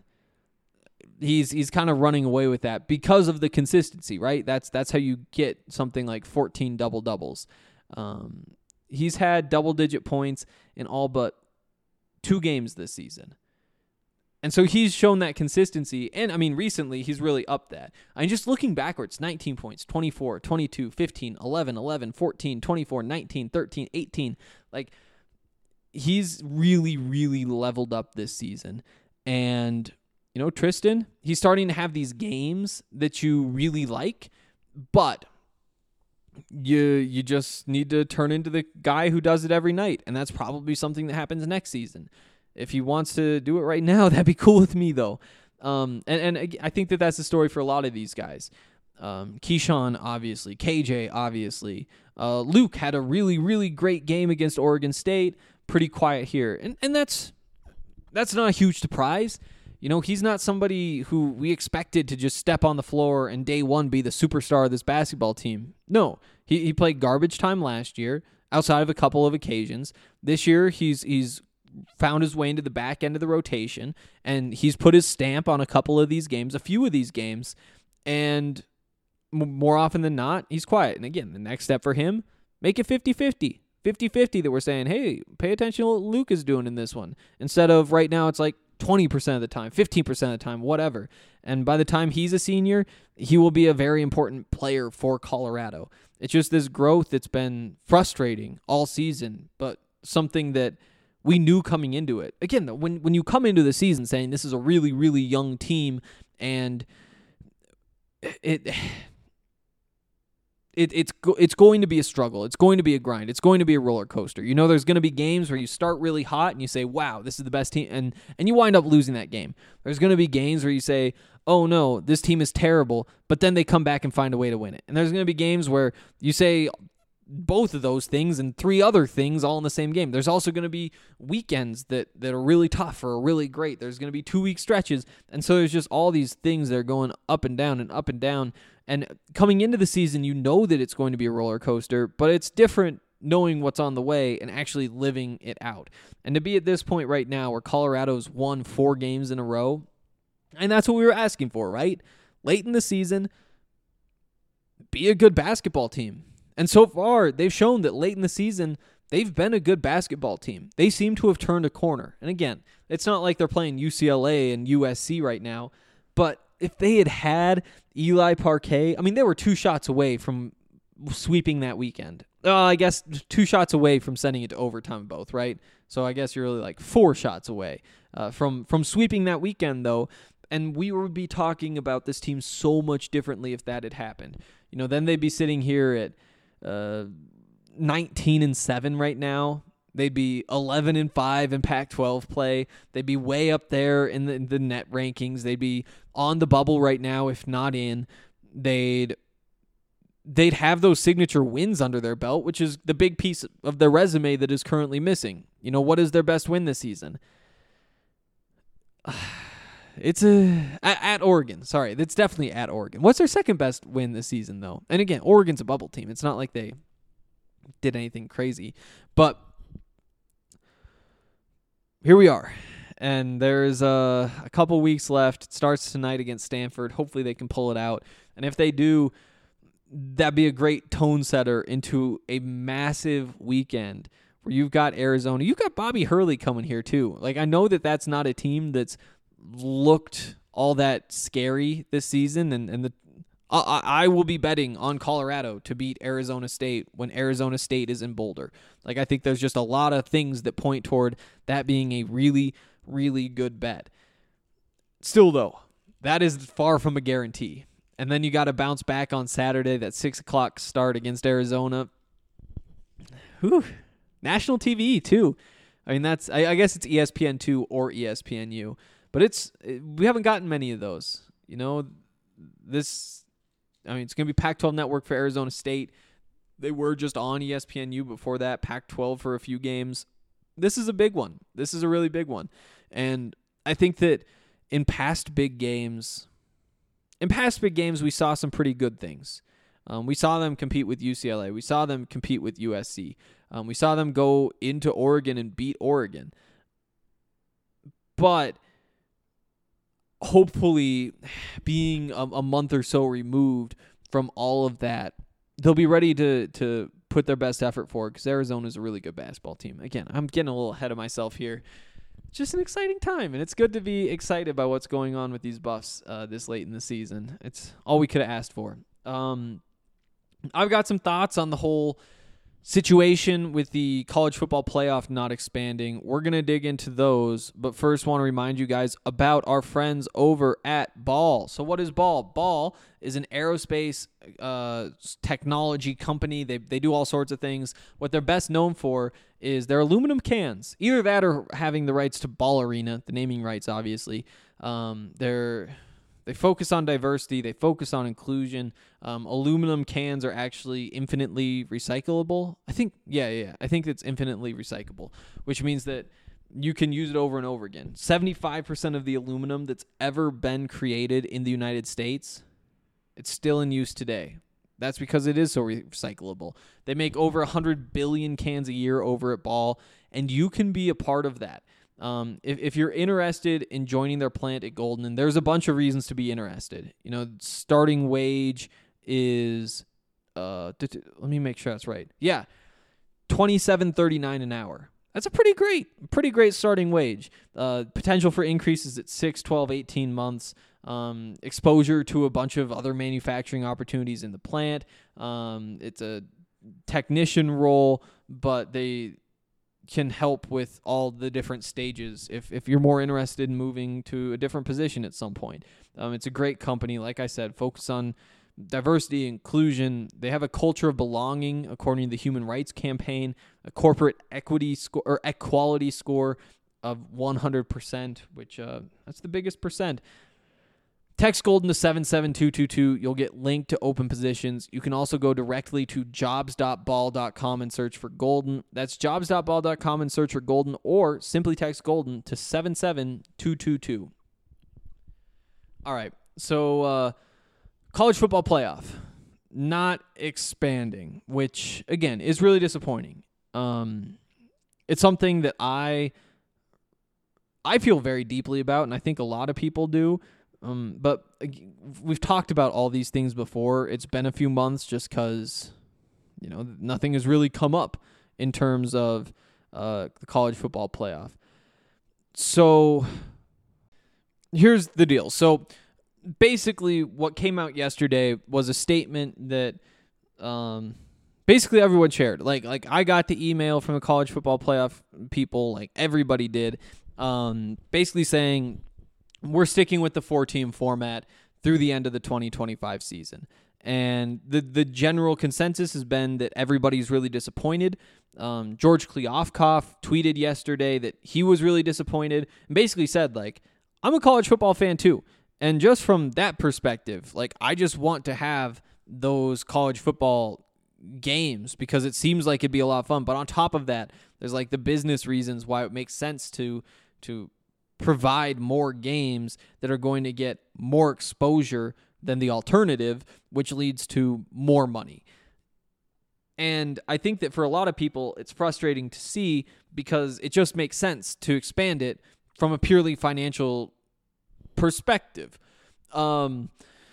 He's he's kind of running away with that because of the consistency, right? That's that's how you get something like fourteen double doubles. Um, he's had double digit points in all but two games this season. And so he's shown that consistency. And, I mean, recently he's really upped that. I mean, just looking backwards, nineteen points, twenty-four, twenty-two, fifteen, eleven, eleven, fourteen, twenty-four, nineteen, thirteen, eighteen. Like, he's really, really leveled up this season. And, you know, Tristan, he's starting to have these games that you really like, but you you just need to turn into the guy who does it every night. And that's probably something that happens next season. If he wants to do it right now, that'd be cool with me, though. Um, and, and I think that that's the story for a lot of these guys. Um, Keyshawn, obviously. K J, obviously. Uh, Luke had a really, really great game against Oregon State. Pretty quiet here. And and that's that's not a huge surprise. You know, he's not somebody who we expected to just step on the floor and day one be the superstar of this basketball team. No, he, he played garbage time last year, outside of a couple of occasions. This year, he's he's... found his way into the back end of the rotation, and he's put his stamp on a couple of these games, a few of these games, and m- more often than not, he's quiet. And again, the next step for him, make it fifty-fifty. fifty-fifty that we're saying, hey, pay attention to what Luke is doing in this one. Instead of right now, it's like twenty percent of the time, fifteen percent of the time, whatever. And by the time he's a senior, he will be a very important player for Colorado. It's just this growth that's been frustrating all season, but something that we knew coming into it. Again, when when you come into the season saying this is a really, really young team and it it it's go, it's going to be a struggle. It's going to be a grind. It's going to be a roller coaster. You know, there's going to be games where you start really hot and you say, "Wow, this is the best team," and and you wind up losing that game. There's going to be games where you say, "Oh no, this team is terrible," but then they come back and find a way to win it. And there's going to be games where you say both of those things and three other things all in the same game. There's also going to be weekends that, that are really tough or really great. There's going to be two-week stretches. And so there's just all these things that are going up and down and up and down. And coming into the season, you know that it's going to be a roller coaster, but it's different knowing what's on the way and actually living it out. And to be at this point right now where Colorado's won four games in a row, and that's what we were asking for, right? Late in the season, be a good basketball team. And so far, they've shown that late in the season, they've been a good basketball team. They seem to have turned a corner. And again, it's not like they're playing U C L A and U S C right now, but if they had had Eli Parquet, I mean, they were two shots away from sweeping that weekend. Uh, I guess two shots away from sending it to overtime both, right? So I guess you're really like four shots away uh, from, from sweeping that weekend, though. And we would be talking about this team so much differently if that had happened. You know, then they'd be sitting here at Uh, nineteen and seven right now. They'd be eleven and five in Pac twelve play. They'd be way up there in the, in the net rankings. They'd be on the bubble right now, if not in. They'd they'd have those signature wins under their belt, which is the big piece of their resume that is currently missing. You know, what is their best win this season? It's a at, at Oregon. Sorry, it's definitely at Oregon. What's their second best win this season, though? And again, Oregon's a bubble team. It's not like they did anything crazy. But here we are. And there's uh, a couple weeks left. It starts tonight against Stanford. Hopefully they can pull it out. And if they do, that'd be a great tone setter into a massive weekend where you've got Arizona. You've got Bobby Hurley coming here too. Like, I know that that's not a team that's looked all that scary this season, and, and the I, I will be betting on Colorado to beat Arizona State when Arizona State is in Boulder. Like, I think there's just a lot of things that point toward that being a really, really good bet. Still, though, that is far from a guarantee. And then you got to bounce back on Saturday, that six o'clock start against Arizona. Whew. National T V, too. I mean, that's I, I guess it's E S P N two or E S P N U. But it's we haven't gotten many of those. You know, this... I mean, it's going to be Pac twelve Network for Arizona State. They were just on E S P N U before that, Pac twelve for a few games. This is a big one. This is a really big one. And I think that in past big games, in past big games, we saw some pretty good things. Um, we saw them compete with U C L A. We saw them compete with U S C. Um, we saw them go into Oregon and beat Oregon. But hopefully, being a, a month or so removed from all of that, they'll be ready to to put their best effort forward, because Arizona is a really good basketball team. Again, I'm getting a little ahead of myself here. Just an exciting time, and it's good to be excited about what's going on with these Buffs uh, this late in the season. It's all we could have asked for. Um, I've got some thoughts on the whole situation with the college football playoff not expanding. We're going to dig into those, but first want to remind you guys about our friends over at Ball. So what is Ball? Ball is an aerospace uh, technology company. They they do all sorts of things. What they're best known for is their aluminum cans. Either that or having the rights to Ball Arena, the naming rights, obviously. Um, they're... They focus on diversity. They focus on inclusion. Um, aluminum cans are actually infinitely recyclable. I think, yeah, yeah. I think it's infinitely recyclable, which means that you can use it over and over again. seventy-five percent of the aluminum that's ever been created in the United States, it's still in use today. That's because it is so recyclable. They make over one hundred billion cans a year over at Ball, and you can be a part of that. Um, if, if you're interested in joining their plant at Golden, and there's a bunch of reasons to be interested. You know, starting wage is, uh, let me make sure that's right. Yeah, twenty-seven thirty-nine an hour. That's a pretty great, pretty great starting wage. Uh, potential for increases at six, twelve, eighteen months. Um, exposure to a bunch of other manufacturing opportunities in the plant. Um, it's a technician role, but they can help with all the different stages if if you're more interested in moving to a different position at some point. Um, it's a great company, like I said, focus on diversity, inclusion. They have a culture of belonging, according to the Human Rights Campaign, a corporate equity score or equality score of one hundred percent, which uh, that's the biggest percent. Text Golden to seven seven two two two. You'll get linked to open positions. You can also go directly to jobs dot ball dot com and search for Golden. That's jobs dot ball dot com and search for Golden, or simply text Golden to seven seven two two two. All right, so uh, college football playoff not expanding, which, again, is really disappointing. Um, it's something that I I feel very deeply about, and I think a lot of people do. Um, but we've talked about all these things before. It's been a few months just because, you know, nothing has really come up in terms of uh, the college football playoff. So here's the deal. So basically what came out yesterday was a statement that um, basically everyone shared. Like, like I got the email from the college football playoff people, like everybody did, um, basically saying, we're sticking with the four-team format through the end of the twenty twenty-five season. And the the general consensus has been that everybody's really disappointed. Um, George Kliavkoff tweeted yesterday that he was really disappointed and basically said, like, I'm a college football fan too. And just from that perspective, like, I just want to have those college football games because it seems like it'd be a lot of fun. But on top of that, there's like the business reasons why it makes sense to to provide more games that are going to get more exposure than the alternative, which leads to more money. And I think that for a lot of people, it's frustrating to see because it just makes sense to expand it from a purely financial perspective. Um,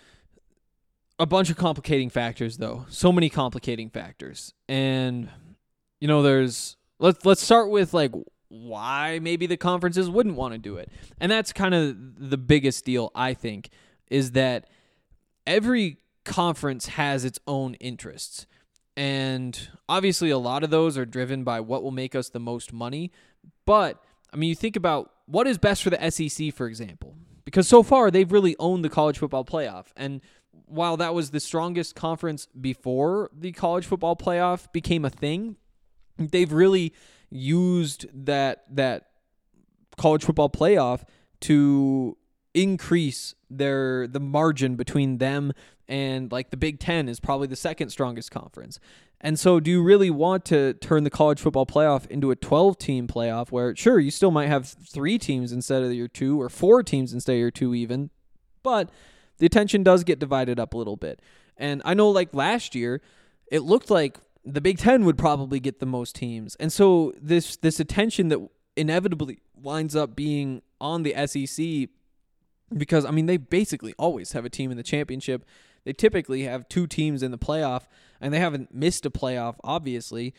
a bunch of complicating factors, though. So many complicating factors. And, you know, there's let's let's start with like why maybe the conferences wouldn't want to do it. And that's kind of the biggest deal, I think, is that every conference has its own interests. And obviously a lot of those are driven by what will make us the most money. But, I mean, you think about what is best for the S E C, for example. Because so far, they've really owned the college football playoff. And while that was the strongest conference before the college football playoff became a thing, they've really used that that college football playoff to increase their the margin between them and like the Big Ten is probably the second strongest conference. And so do you really want to turn the college football playoff into a twelve-team playoff where, sure, you still might have three teams instead of your two or four teams instead of your two even, but the attention does get divided up a little bit. And I know like last year, it looked like the Big Ten would probably get the most teams. And so this this attention that inevitably winds up being on the S E C because, I mean, they basically always have a team in the championship. They typically have two teams in the playoff, and they haven't missed a playoff, obviously.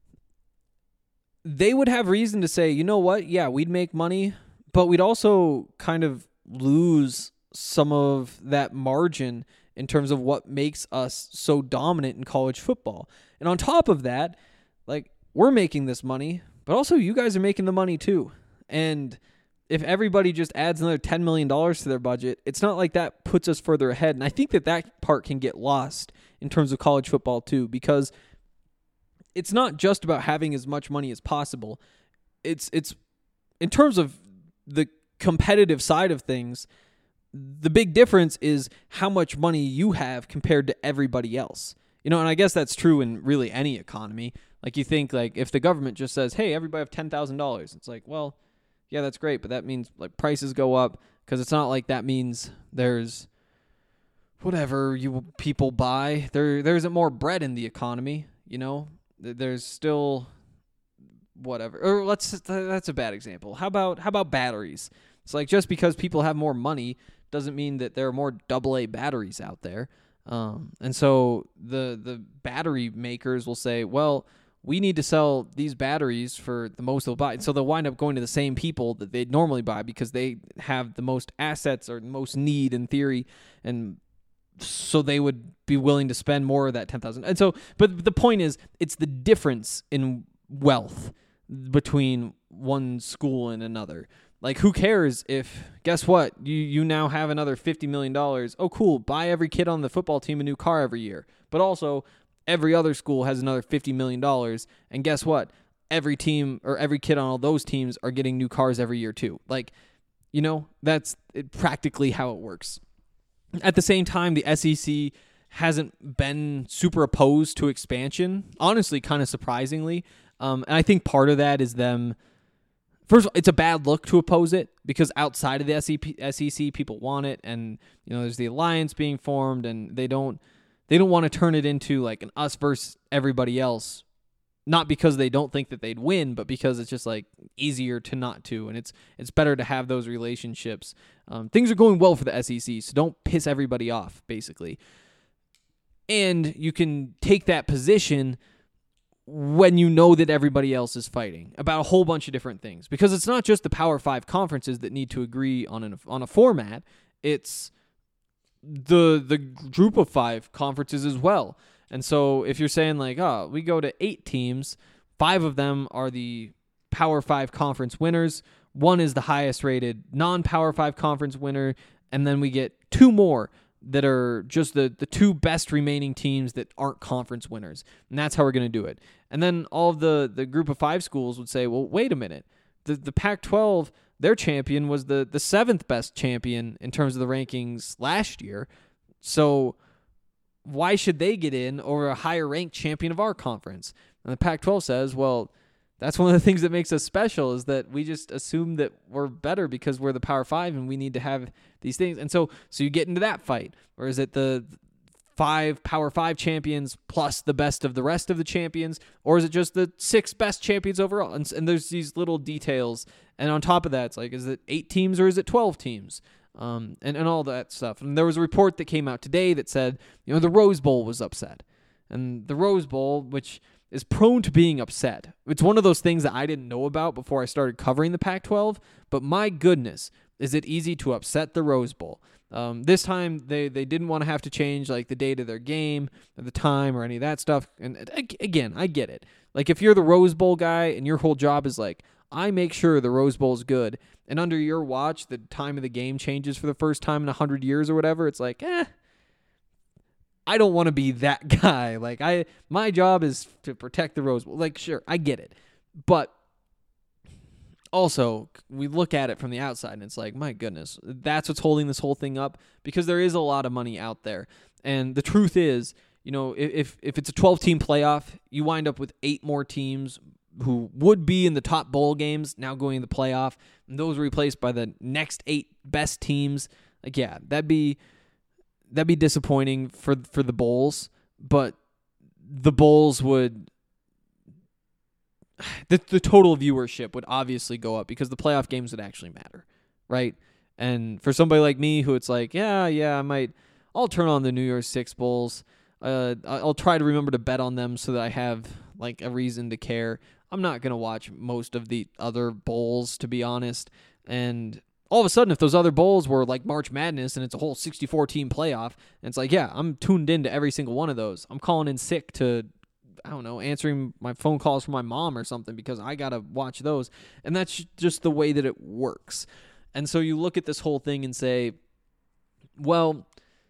They would have reason to say, you know what, yeah, we'd make money, but we'd also kind of lose some of that margin in terms of what makes us so dominant in college football. And on top of that, like, we're making this money, but also you guys are making the money too. And if everybody just adds another ten million dollars to their budget, it's not like that puts us further ahead. And I think that that part can get lost in terms of college football too, because it's not just about having as much money as possible. It's it's in terms of the competitive side of things, the big difference is how much money you have compared to everybody else. You know, and I guess that's true in really any economy. Like you think like if the government just says, hey, everybody have ten thousand dollars, it's like, well, yeah, that's great, but that means like prices go up because it's not like that means there's whatever you people buy. There there isn't more bread in the economy, you know? There's still whatever. Or let's that's a bad example. How about how about batteries? It's like just because people have more money doesn't mean that there are more double A batteries out there. Um, and so the the battery makers will say, well, we need to sell these batteries for the most they'll buy. And so they'll wind up going to the same people that they'd normally buy because they have the most assets or most need in theory. And so they would be willing to spend more of that ten thousand dollars. And so, but the point is, it's the difference in wealth between one school and another. Like, who cares if, guess what, you you now have another fifty million dollars. Oh, cool, buy every kid on the football team a new car every year. But also, every other school has another fifty million dollars. And guess what? Every team or every kid on all those teams are getting new cars every year too. Like, you know, that's it, practically how it works. At the same time, the S E C hasn't been super opposed to expansion, honestly, kind of surprisingly. Um, and I think part of that is them... First of all, it's a bad look to oppose it because outside of the S E C, people want it, and you know there's the alliance being formed, and they don't they don't want to turn it into like an us versus everybody else. Not because they don't think that they'd win, but because it's just like easier to not to, and it's it's better to have those relationships. Um, things are going well for the S E C, so don't piss everybody off, basically. And you can take that position when you know that everybody else is fighting about a whole bunch of different things. Because it's not just the Power Five conferences that need to agree on an, on a format. It's the the group of five conferences as well. And so if you're saying like, oh, we go to eight teams, five of them are the Power Five conference winners. One is the highest rated non-Power Five conference winner. And then we get two more that are just the, the two best remaining teams that aren't conference winners. And that's how we're going to do it. And then all of the, the group of five schools would say, well, wait a minute. The the Pac twelve, their champion was the, the seventh best champion in terms of the rankings last year. So why should they get in over a higher ranked champion of our conference? And the Pac twelve says, well, that's one of the things that makes us special is that we just assume that we're better because we're the Power Five and we need to have these things. And so so you get into that fight. Or is it the five Power Five champions plus the best of the rest of the champions? Or is it just the six best champions overall? And, and there's these little details. And on top of that, it's like, is it eight teams or is it twelve teams? Um, and, and all that stuff. And there was a report that came out today that said, you know, the Rose Bowl was upset. And the Rose Bowl, which is prone to being upset. It's one of those things that I didn't know about before I started covering the Pac twelve, but my goodness, is it easy to upset the Rose Bowl. Um, this time, they, they didn't want to have to change like the date of their game, or the time, or any of that stuff. And again, I get it. Like if you're the Rose Bowl guy and your whole job is like, I make sure the Rose Bowl is good, and under your watch, the time of the game changes for the first time in a hundred years or whatever, it's like, eh, I don't want to be that guy. Like I, my job is to protect the Rose Bowl. Like, sure, I get it. But also, we look at it from the outside, and it's like, my goodness, that's what's holding this whole thing up, because there is a lot of money out there. And the truth is, you know, if if it's a twelve-team playoff, you wind up with eight more teams who would be in the top bowl games now going in the playoff, and those are replaced by the next eight best teams. Like, yeah, that'd be that'd be disappointing for for the bowls, but the bowls would the the total viewership would obviously go up because the playoff games would actually matter, right? And for somebody like me who it's like, yeah, yeah, I might, I'll turn on the New Year's Six bowls. Uh, I'll try to remember to bet on them so that I have like a reason to care. I'm not gonna watch most of the other bowls, to be honest. And all of a sudden, if those other bowls were like March Madness and it's a whole sixty-four team playoff, and it's like, yeah, I'm tuned into every single one of those. I'm calling in sick to, I don't know, answering my phone calls from my mom or something because I got to watch those. And that's just the way that it works. And so you look at this whole thing and say, well,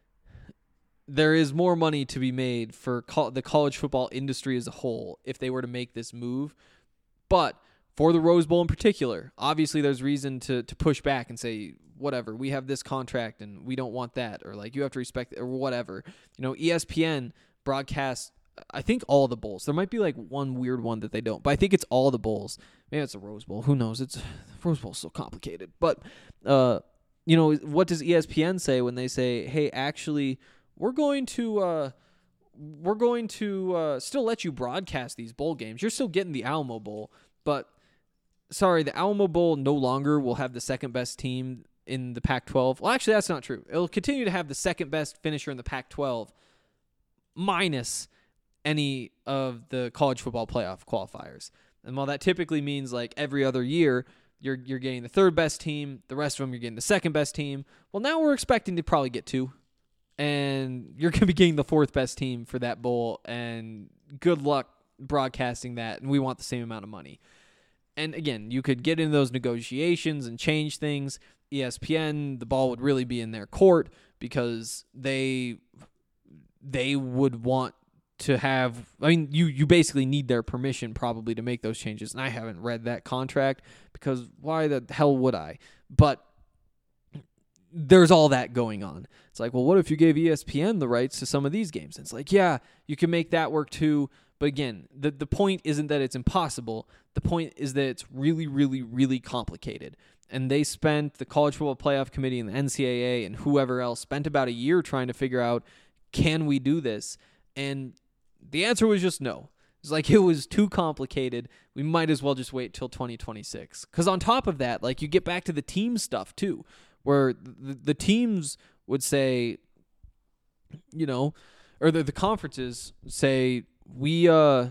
there is more money to be made for co- the college football industry as a whole if they were to make this move. But for the Rose Bowl in particular, obviously there's reason to to push back and say, whatever, we have this contract and we don't want that, or like you have to respect it, or whatever. You know, E S P N broadcasts, I think, all the bowls. There might be like one weird one that they don't, but I think it's all the bowls. Maybe it's a Rose Bowl. Who knows? It's the Rose Bowl's so complicated. But uh, you know, what does E S P N say when they say, hey, actually, we're going to uh, we're going to uh, still let you broadcast these bowl games. You're still getting the Alamo Bowl, but sorry, the Alamo Bowl no longer will have the second best team in the Pac twelve. Well, actually, that's not true. It'll continue to have the second best finisher in the Pac twelve, minus any of the college football playoff qualifiers. And while that typically means like every other year, you're you're getting the third best team, the rest of them you're getting the second best team. Well, now we're expecting to probably get two, and you're going to be getting the fourth best team for that bowl, and good luck broadcasting that, and we want the same amount of money. And again, you could get into those negotiations and change things. E S P N, the ball would really be in their court because they they would want to have, I mean, you you basically need their permission probably to make those changes. And I haven't read that contract because why the hell would I? But there's all that going on. It's like, well, what if you gave E S P N the rights to some of these games? And it's like, yeah, you can make that work too. But again, the, the point isn't that it's impossible. The point is that it's really, really, really complicated. And they spent, the College Football Playoff Committee and the N C double A and whoever else spent about a year trying to figure out, can we do this? And the answer was just no. It's like, it was too complicated. We might as well just wait till twenty twenty-six. Because on top of that, like, you get back to the team stuff too, where the, the teams would say, you know, or the, the conferences say, we uh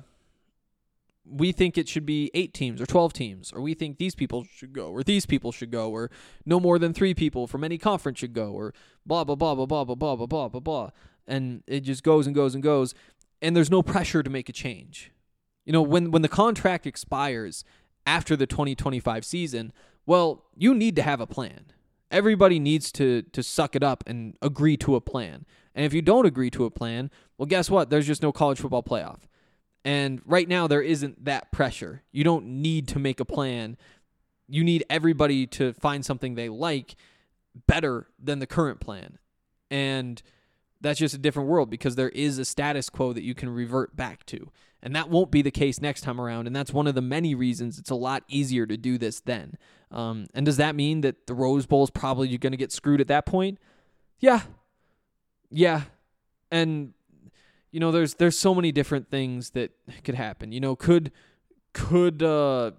we think it should be eight teams or twelve teams, or we think these people should go, or these people should go, or no more than three people from any conference should go, or blah, blah, blah, blah, blah, blah, blah, blah, blah, blah, blah. And it just goes and goes and goes, and there's no pressure to make a change. You know, when, when the contract expires after the twenty twenty-five season, well, you need to have a plan. Everybody needs to to suck it up and agree to a plan. And if you don't agree to a plan, well, guess what? There's just no college football playoff. And right now, there isn't that pressure. You don't need to make a plan. You need everybody to find something they like better than the current plan. And that's just a different world because there is a status quo that you can revert back to. And that won't be the case next time around. And that's one of the many reasons it's a lot easier to do this then. Um, and does that mean that the Rose Bowl is probably going to get screwed at that point? Yeah. Yeah. And, you know, there's there's so many different things that could happen. You know, could could uh,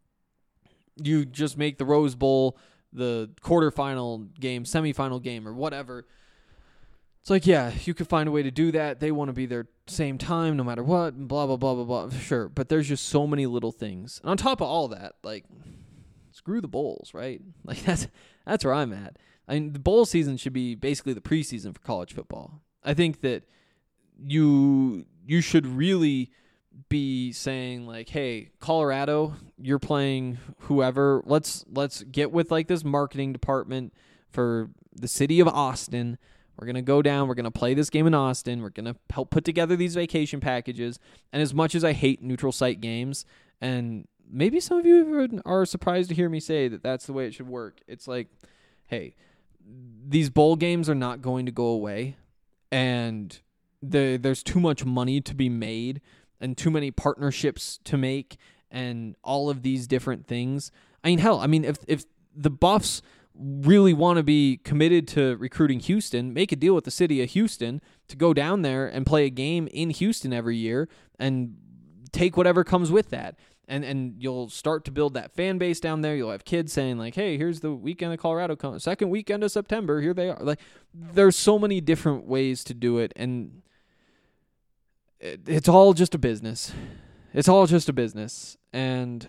you just make the Rose Bowl the quarterfinal game, semifinal game, or whatever, It's like, yeah, you could find a way to do that. They want to be there same time no matter what, and blah, blah, blah, blah, blah. Sure, but there's just so many little things. And on top of all that, like, screw the bowls, right? Like, that's that's where I'm at. I mean, the bowl season should be basically the preseason for college football. I think that you you should really be saying, like, hey, Colorado, you're playing whoever. Let's let's get with, like, this marketing department for the city of Austin. We're going to go down. We're going to play this game in Austin. We're going to help put together these vacation packages. And as much as I hate neutral site games, and maybe some of you are surprised to hear me say that that's the way it should work, it's like, hey, these bowl games are not going to go away. And the, there's too much money to be made and too many partnerships to make and all of these different things. I mean, hell, I mean, if if the Buffs really want to be committed to recruiting Houston, make a deal with the city of Houston to go down there and play a game in Houston every year and take whatever comes with that. And and you'll start to build that fan base down there. You'll have kids saying, like, hey, here's the weekend of Colorado, second weekend of September, here they are. Like, there's so many different ways to do it, and it, it's all just a business. It's all just a business. And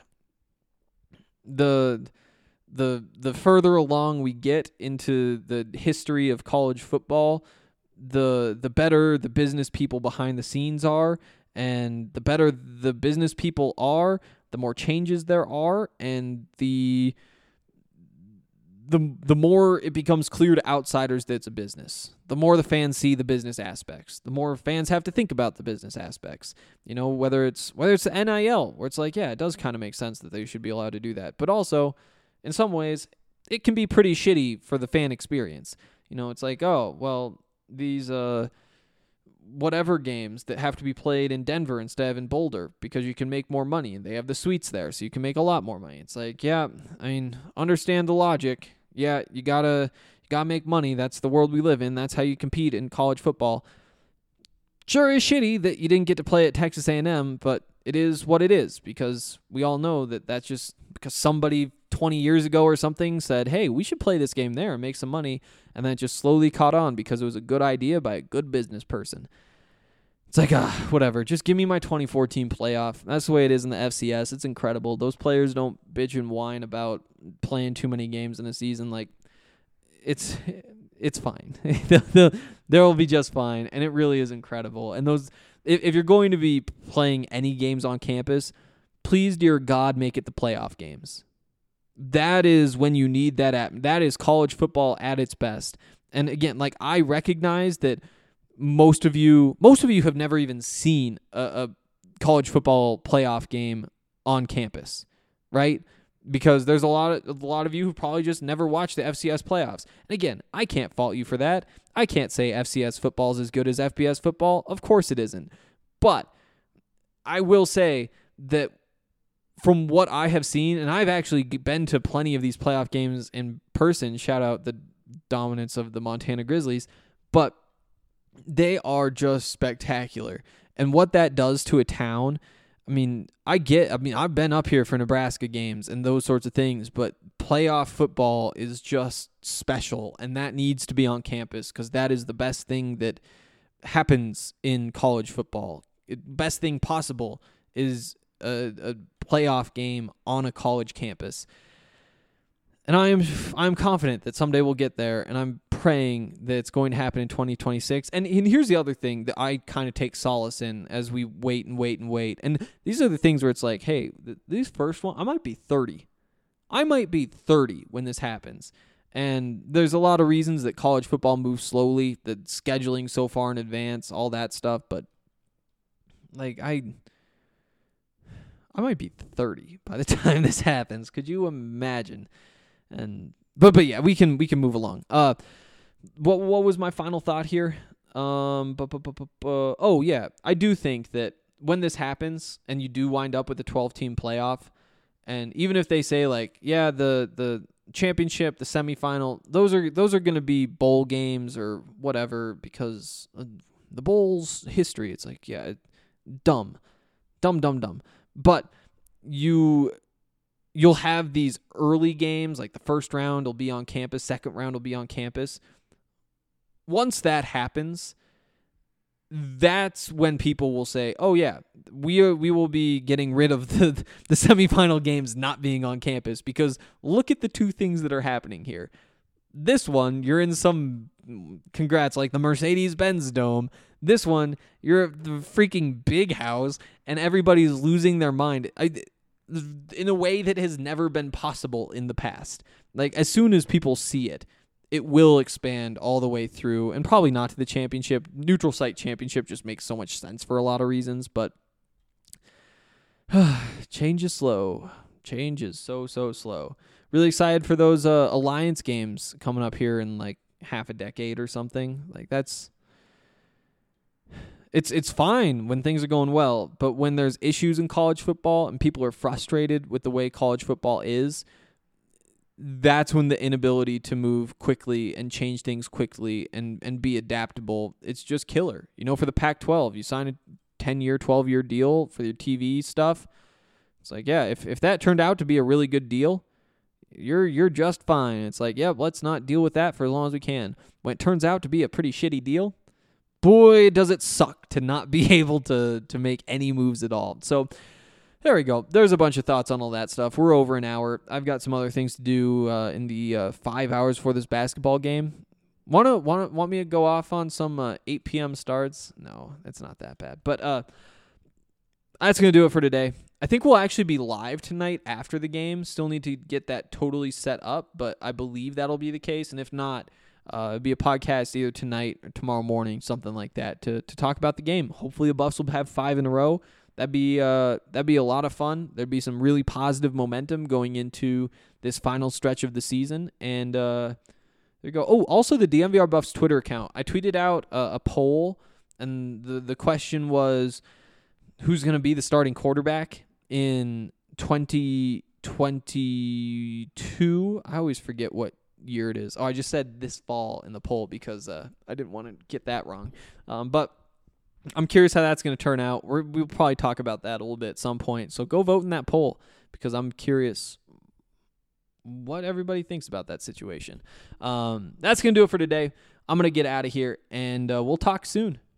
the the the further along we get into the history of college football, the the better the business people behind the scenes are, and the better the business people are, the more changes there are, and the the the more it becomes clear to outsiders that it's a business. The more the fans see the business aspects, the more fans have to think about the business aspects. You know, whether it's whether it's the N I L, where it's like, yeah, it does kind of make sense that they should be allowed to do that, but also, in some ways, it can be pretty shitty for the fan experience. You know, it's like, oh, well, these uh, whatever games that have to be played in Denver instead of in Boulder because you can make more money and they have the suites there, so you can make a lot more money. It's like, yeah, I mean, understand the logic. Yeah, you gotta you gotta make money. That's the world we live in. That's how you compete in college football. Sure is shitty that you didn't get to play at Texas A and M, but it is what it is, because we all know that that's just because somebody twenty years ago or something said, hey, we should play this game there and make some money, and then it just slowly caught on because it was a good idea by a good business person. It's like, ah, whatever. Just give me my twenty fourteen playoff. That's the way it is in the F C S. It's incredible. Those players don't bitch and whine about playing too many games in a season. Like, it's it's fine. They'll be just fine, and it really is incredible. And those, if, if you're going to be playing any games on campus, please, dear God, make it the playoff games. That is when you need that at, that is college football at its best. And again, like, I recognize that most of you, most of you have never even seen a, a college football playoff game on campus, right? Because there's a lot of a lot of you who probably just never watched the F C S playoffs. And again, I can't fault you for that. I can't say F C S football is as good as F B S football. Of course it isn't. But I will say that from what I have seen, and I've actually been to plenty of these playoff games in person, shout out the dominance of the Montana Grizzlies, but they are just spectacular. And what that does to a town, I mean, I get, I mean, I've been up here for Nebraska games and those sorts of things, but playoff football is just special, and that needs to be on campus because that is the best thing that happens in college football. It, best thing possible is a, a playoff game on a college campus. And I am I'm confident that someday we'll get there, and I'm praying that it's going to happen in twenty twenty-six. And, and here's the other thing that I kind of take solace in as we wait and wait and wait. And these are the things where it's like, hey, th- these first one, I might be thirty. I might be thirty when this happens. And there's a lot of reasons that college football moves slowly, the scheduling so far in advance, all that stuff. But like I, I might be thirty by the time this happens. Could you imagine? And but but yeah, we can we can move along. Uh, what what was my final thought here? Um, bu- bu- bu- bu- bu- oh yeah, I do think that when this happens and you do wind up with a twelve team playoff, and even if they say like, yeah, the the championship, the semifinal, those are those are going to be bowl games or whatever because uh, the bowl's history. It's like, yeah, dumb, dumb, dumb, dumb. But you. You'll have these early games, like the first round will be on campus, second round will be on campus. once that happens, that's when people will say, "Oh yeah, we are, we will be getting rid of the the semifinal games not being on campus," because look at the two things that are happening here. This one, you're in some, congrats, like the Mercedes-Benz Dome. This one, you're at the freaking big house, and everybody's losing their mind I, in a way that has never been possible in the past. Like, as soon as people see it, it will expand all the way through, and probably not to the championship. Neutral site championship just makes so much sense for a lot of reasons, but change is slow. Change is so, so slow. Really excited for those uh, Alliance games coming up here in like half a decade or something. Like that's, it's it's fine when things are going well, but when there's issues in college football and people are frustrated with the way college football is, that's when the inability to move quickly and change things quickly and, and be adaptable, it's just killer. You know, for the Pac twelve, you sign a ten-year, twelve-year deal for your T V stuff. It's like, yeah, if, if that turned out to be a really good deal, you're you're just fine. It's like, yeah, let's not deal with that for as long as we can. When it turns out to be a pretty shitty deal, boy, does it suck to not be able to to make any moves at all. So there we go. There's a bunch of thoughts on all that stuff. We're over an hour. I've got some other things to do uh, in the uh, five hours for this basketball game. Wanna wanna want me to go off on some uh, eight p.m. starts? No, it's not that bad. But uh, that's gonna do it for today. I think we'll actually be live tonight after the game. Still need to get that totally set up, but I believe that'll be the case. And if not, uh, it'll be a podcast either tonight or tomorrow morning, something like that, to to talk about the game. Hopefully, the Buffs will have five in a row. That'd be uh, that'd be a lot of fun. There'd be some really positive momentum going into this final stretch of the season. And uh, there you go. Oh, also the D M V R Buffs Twitter account. I tweeted out a, a poll, and the the question was, who's going to be the starting quarterback in twenty twenty-two? I always forget what year it is. Oh, I just said this fall in the poll because uh, I didn't want to get that wrong. Um, but I'm curious how that's going to turn out. We're, we'll probably talk about that a little bit at some point. So go vote in that poll because I'm curious what everybody thinks about that situation. Um, that's going to do it for today. I'm going to get out of here, and uh, we'll talk soon.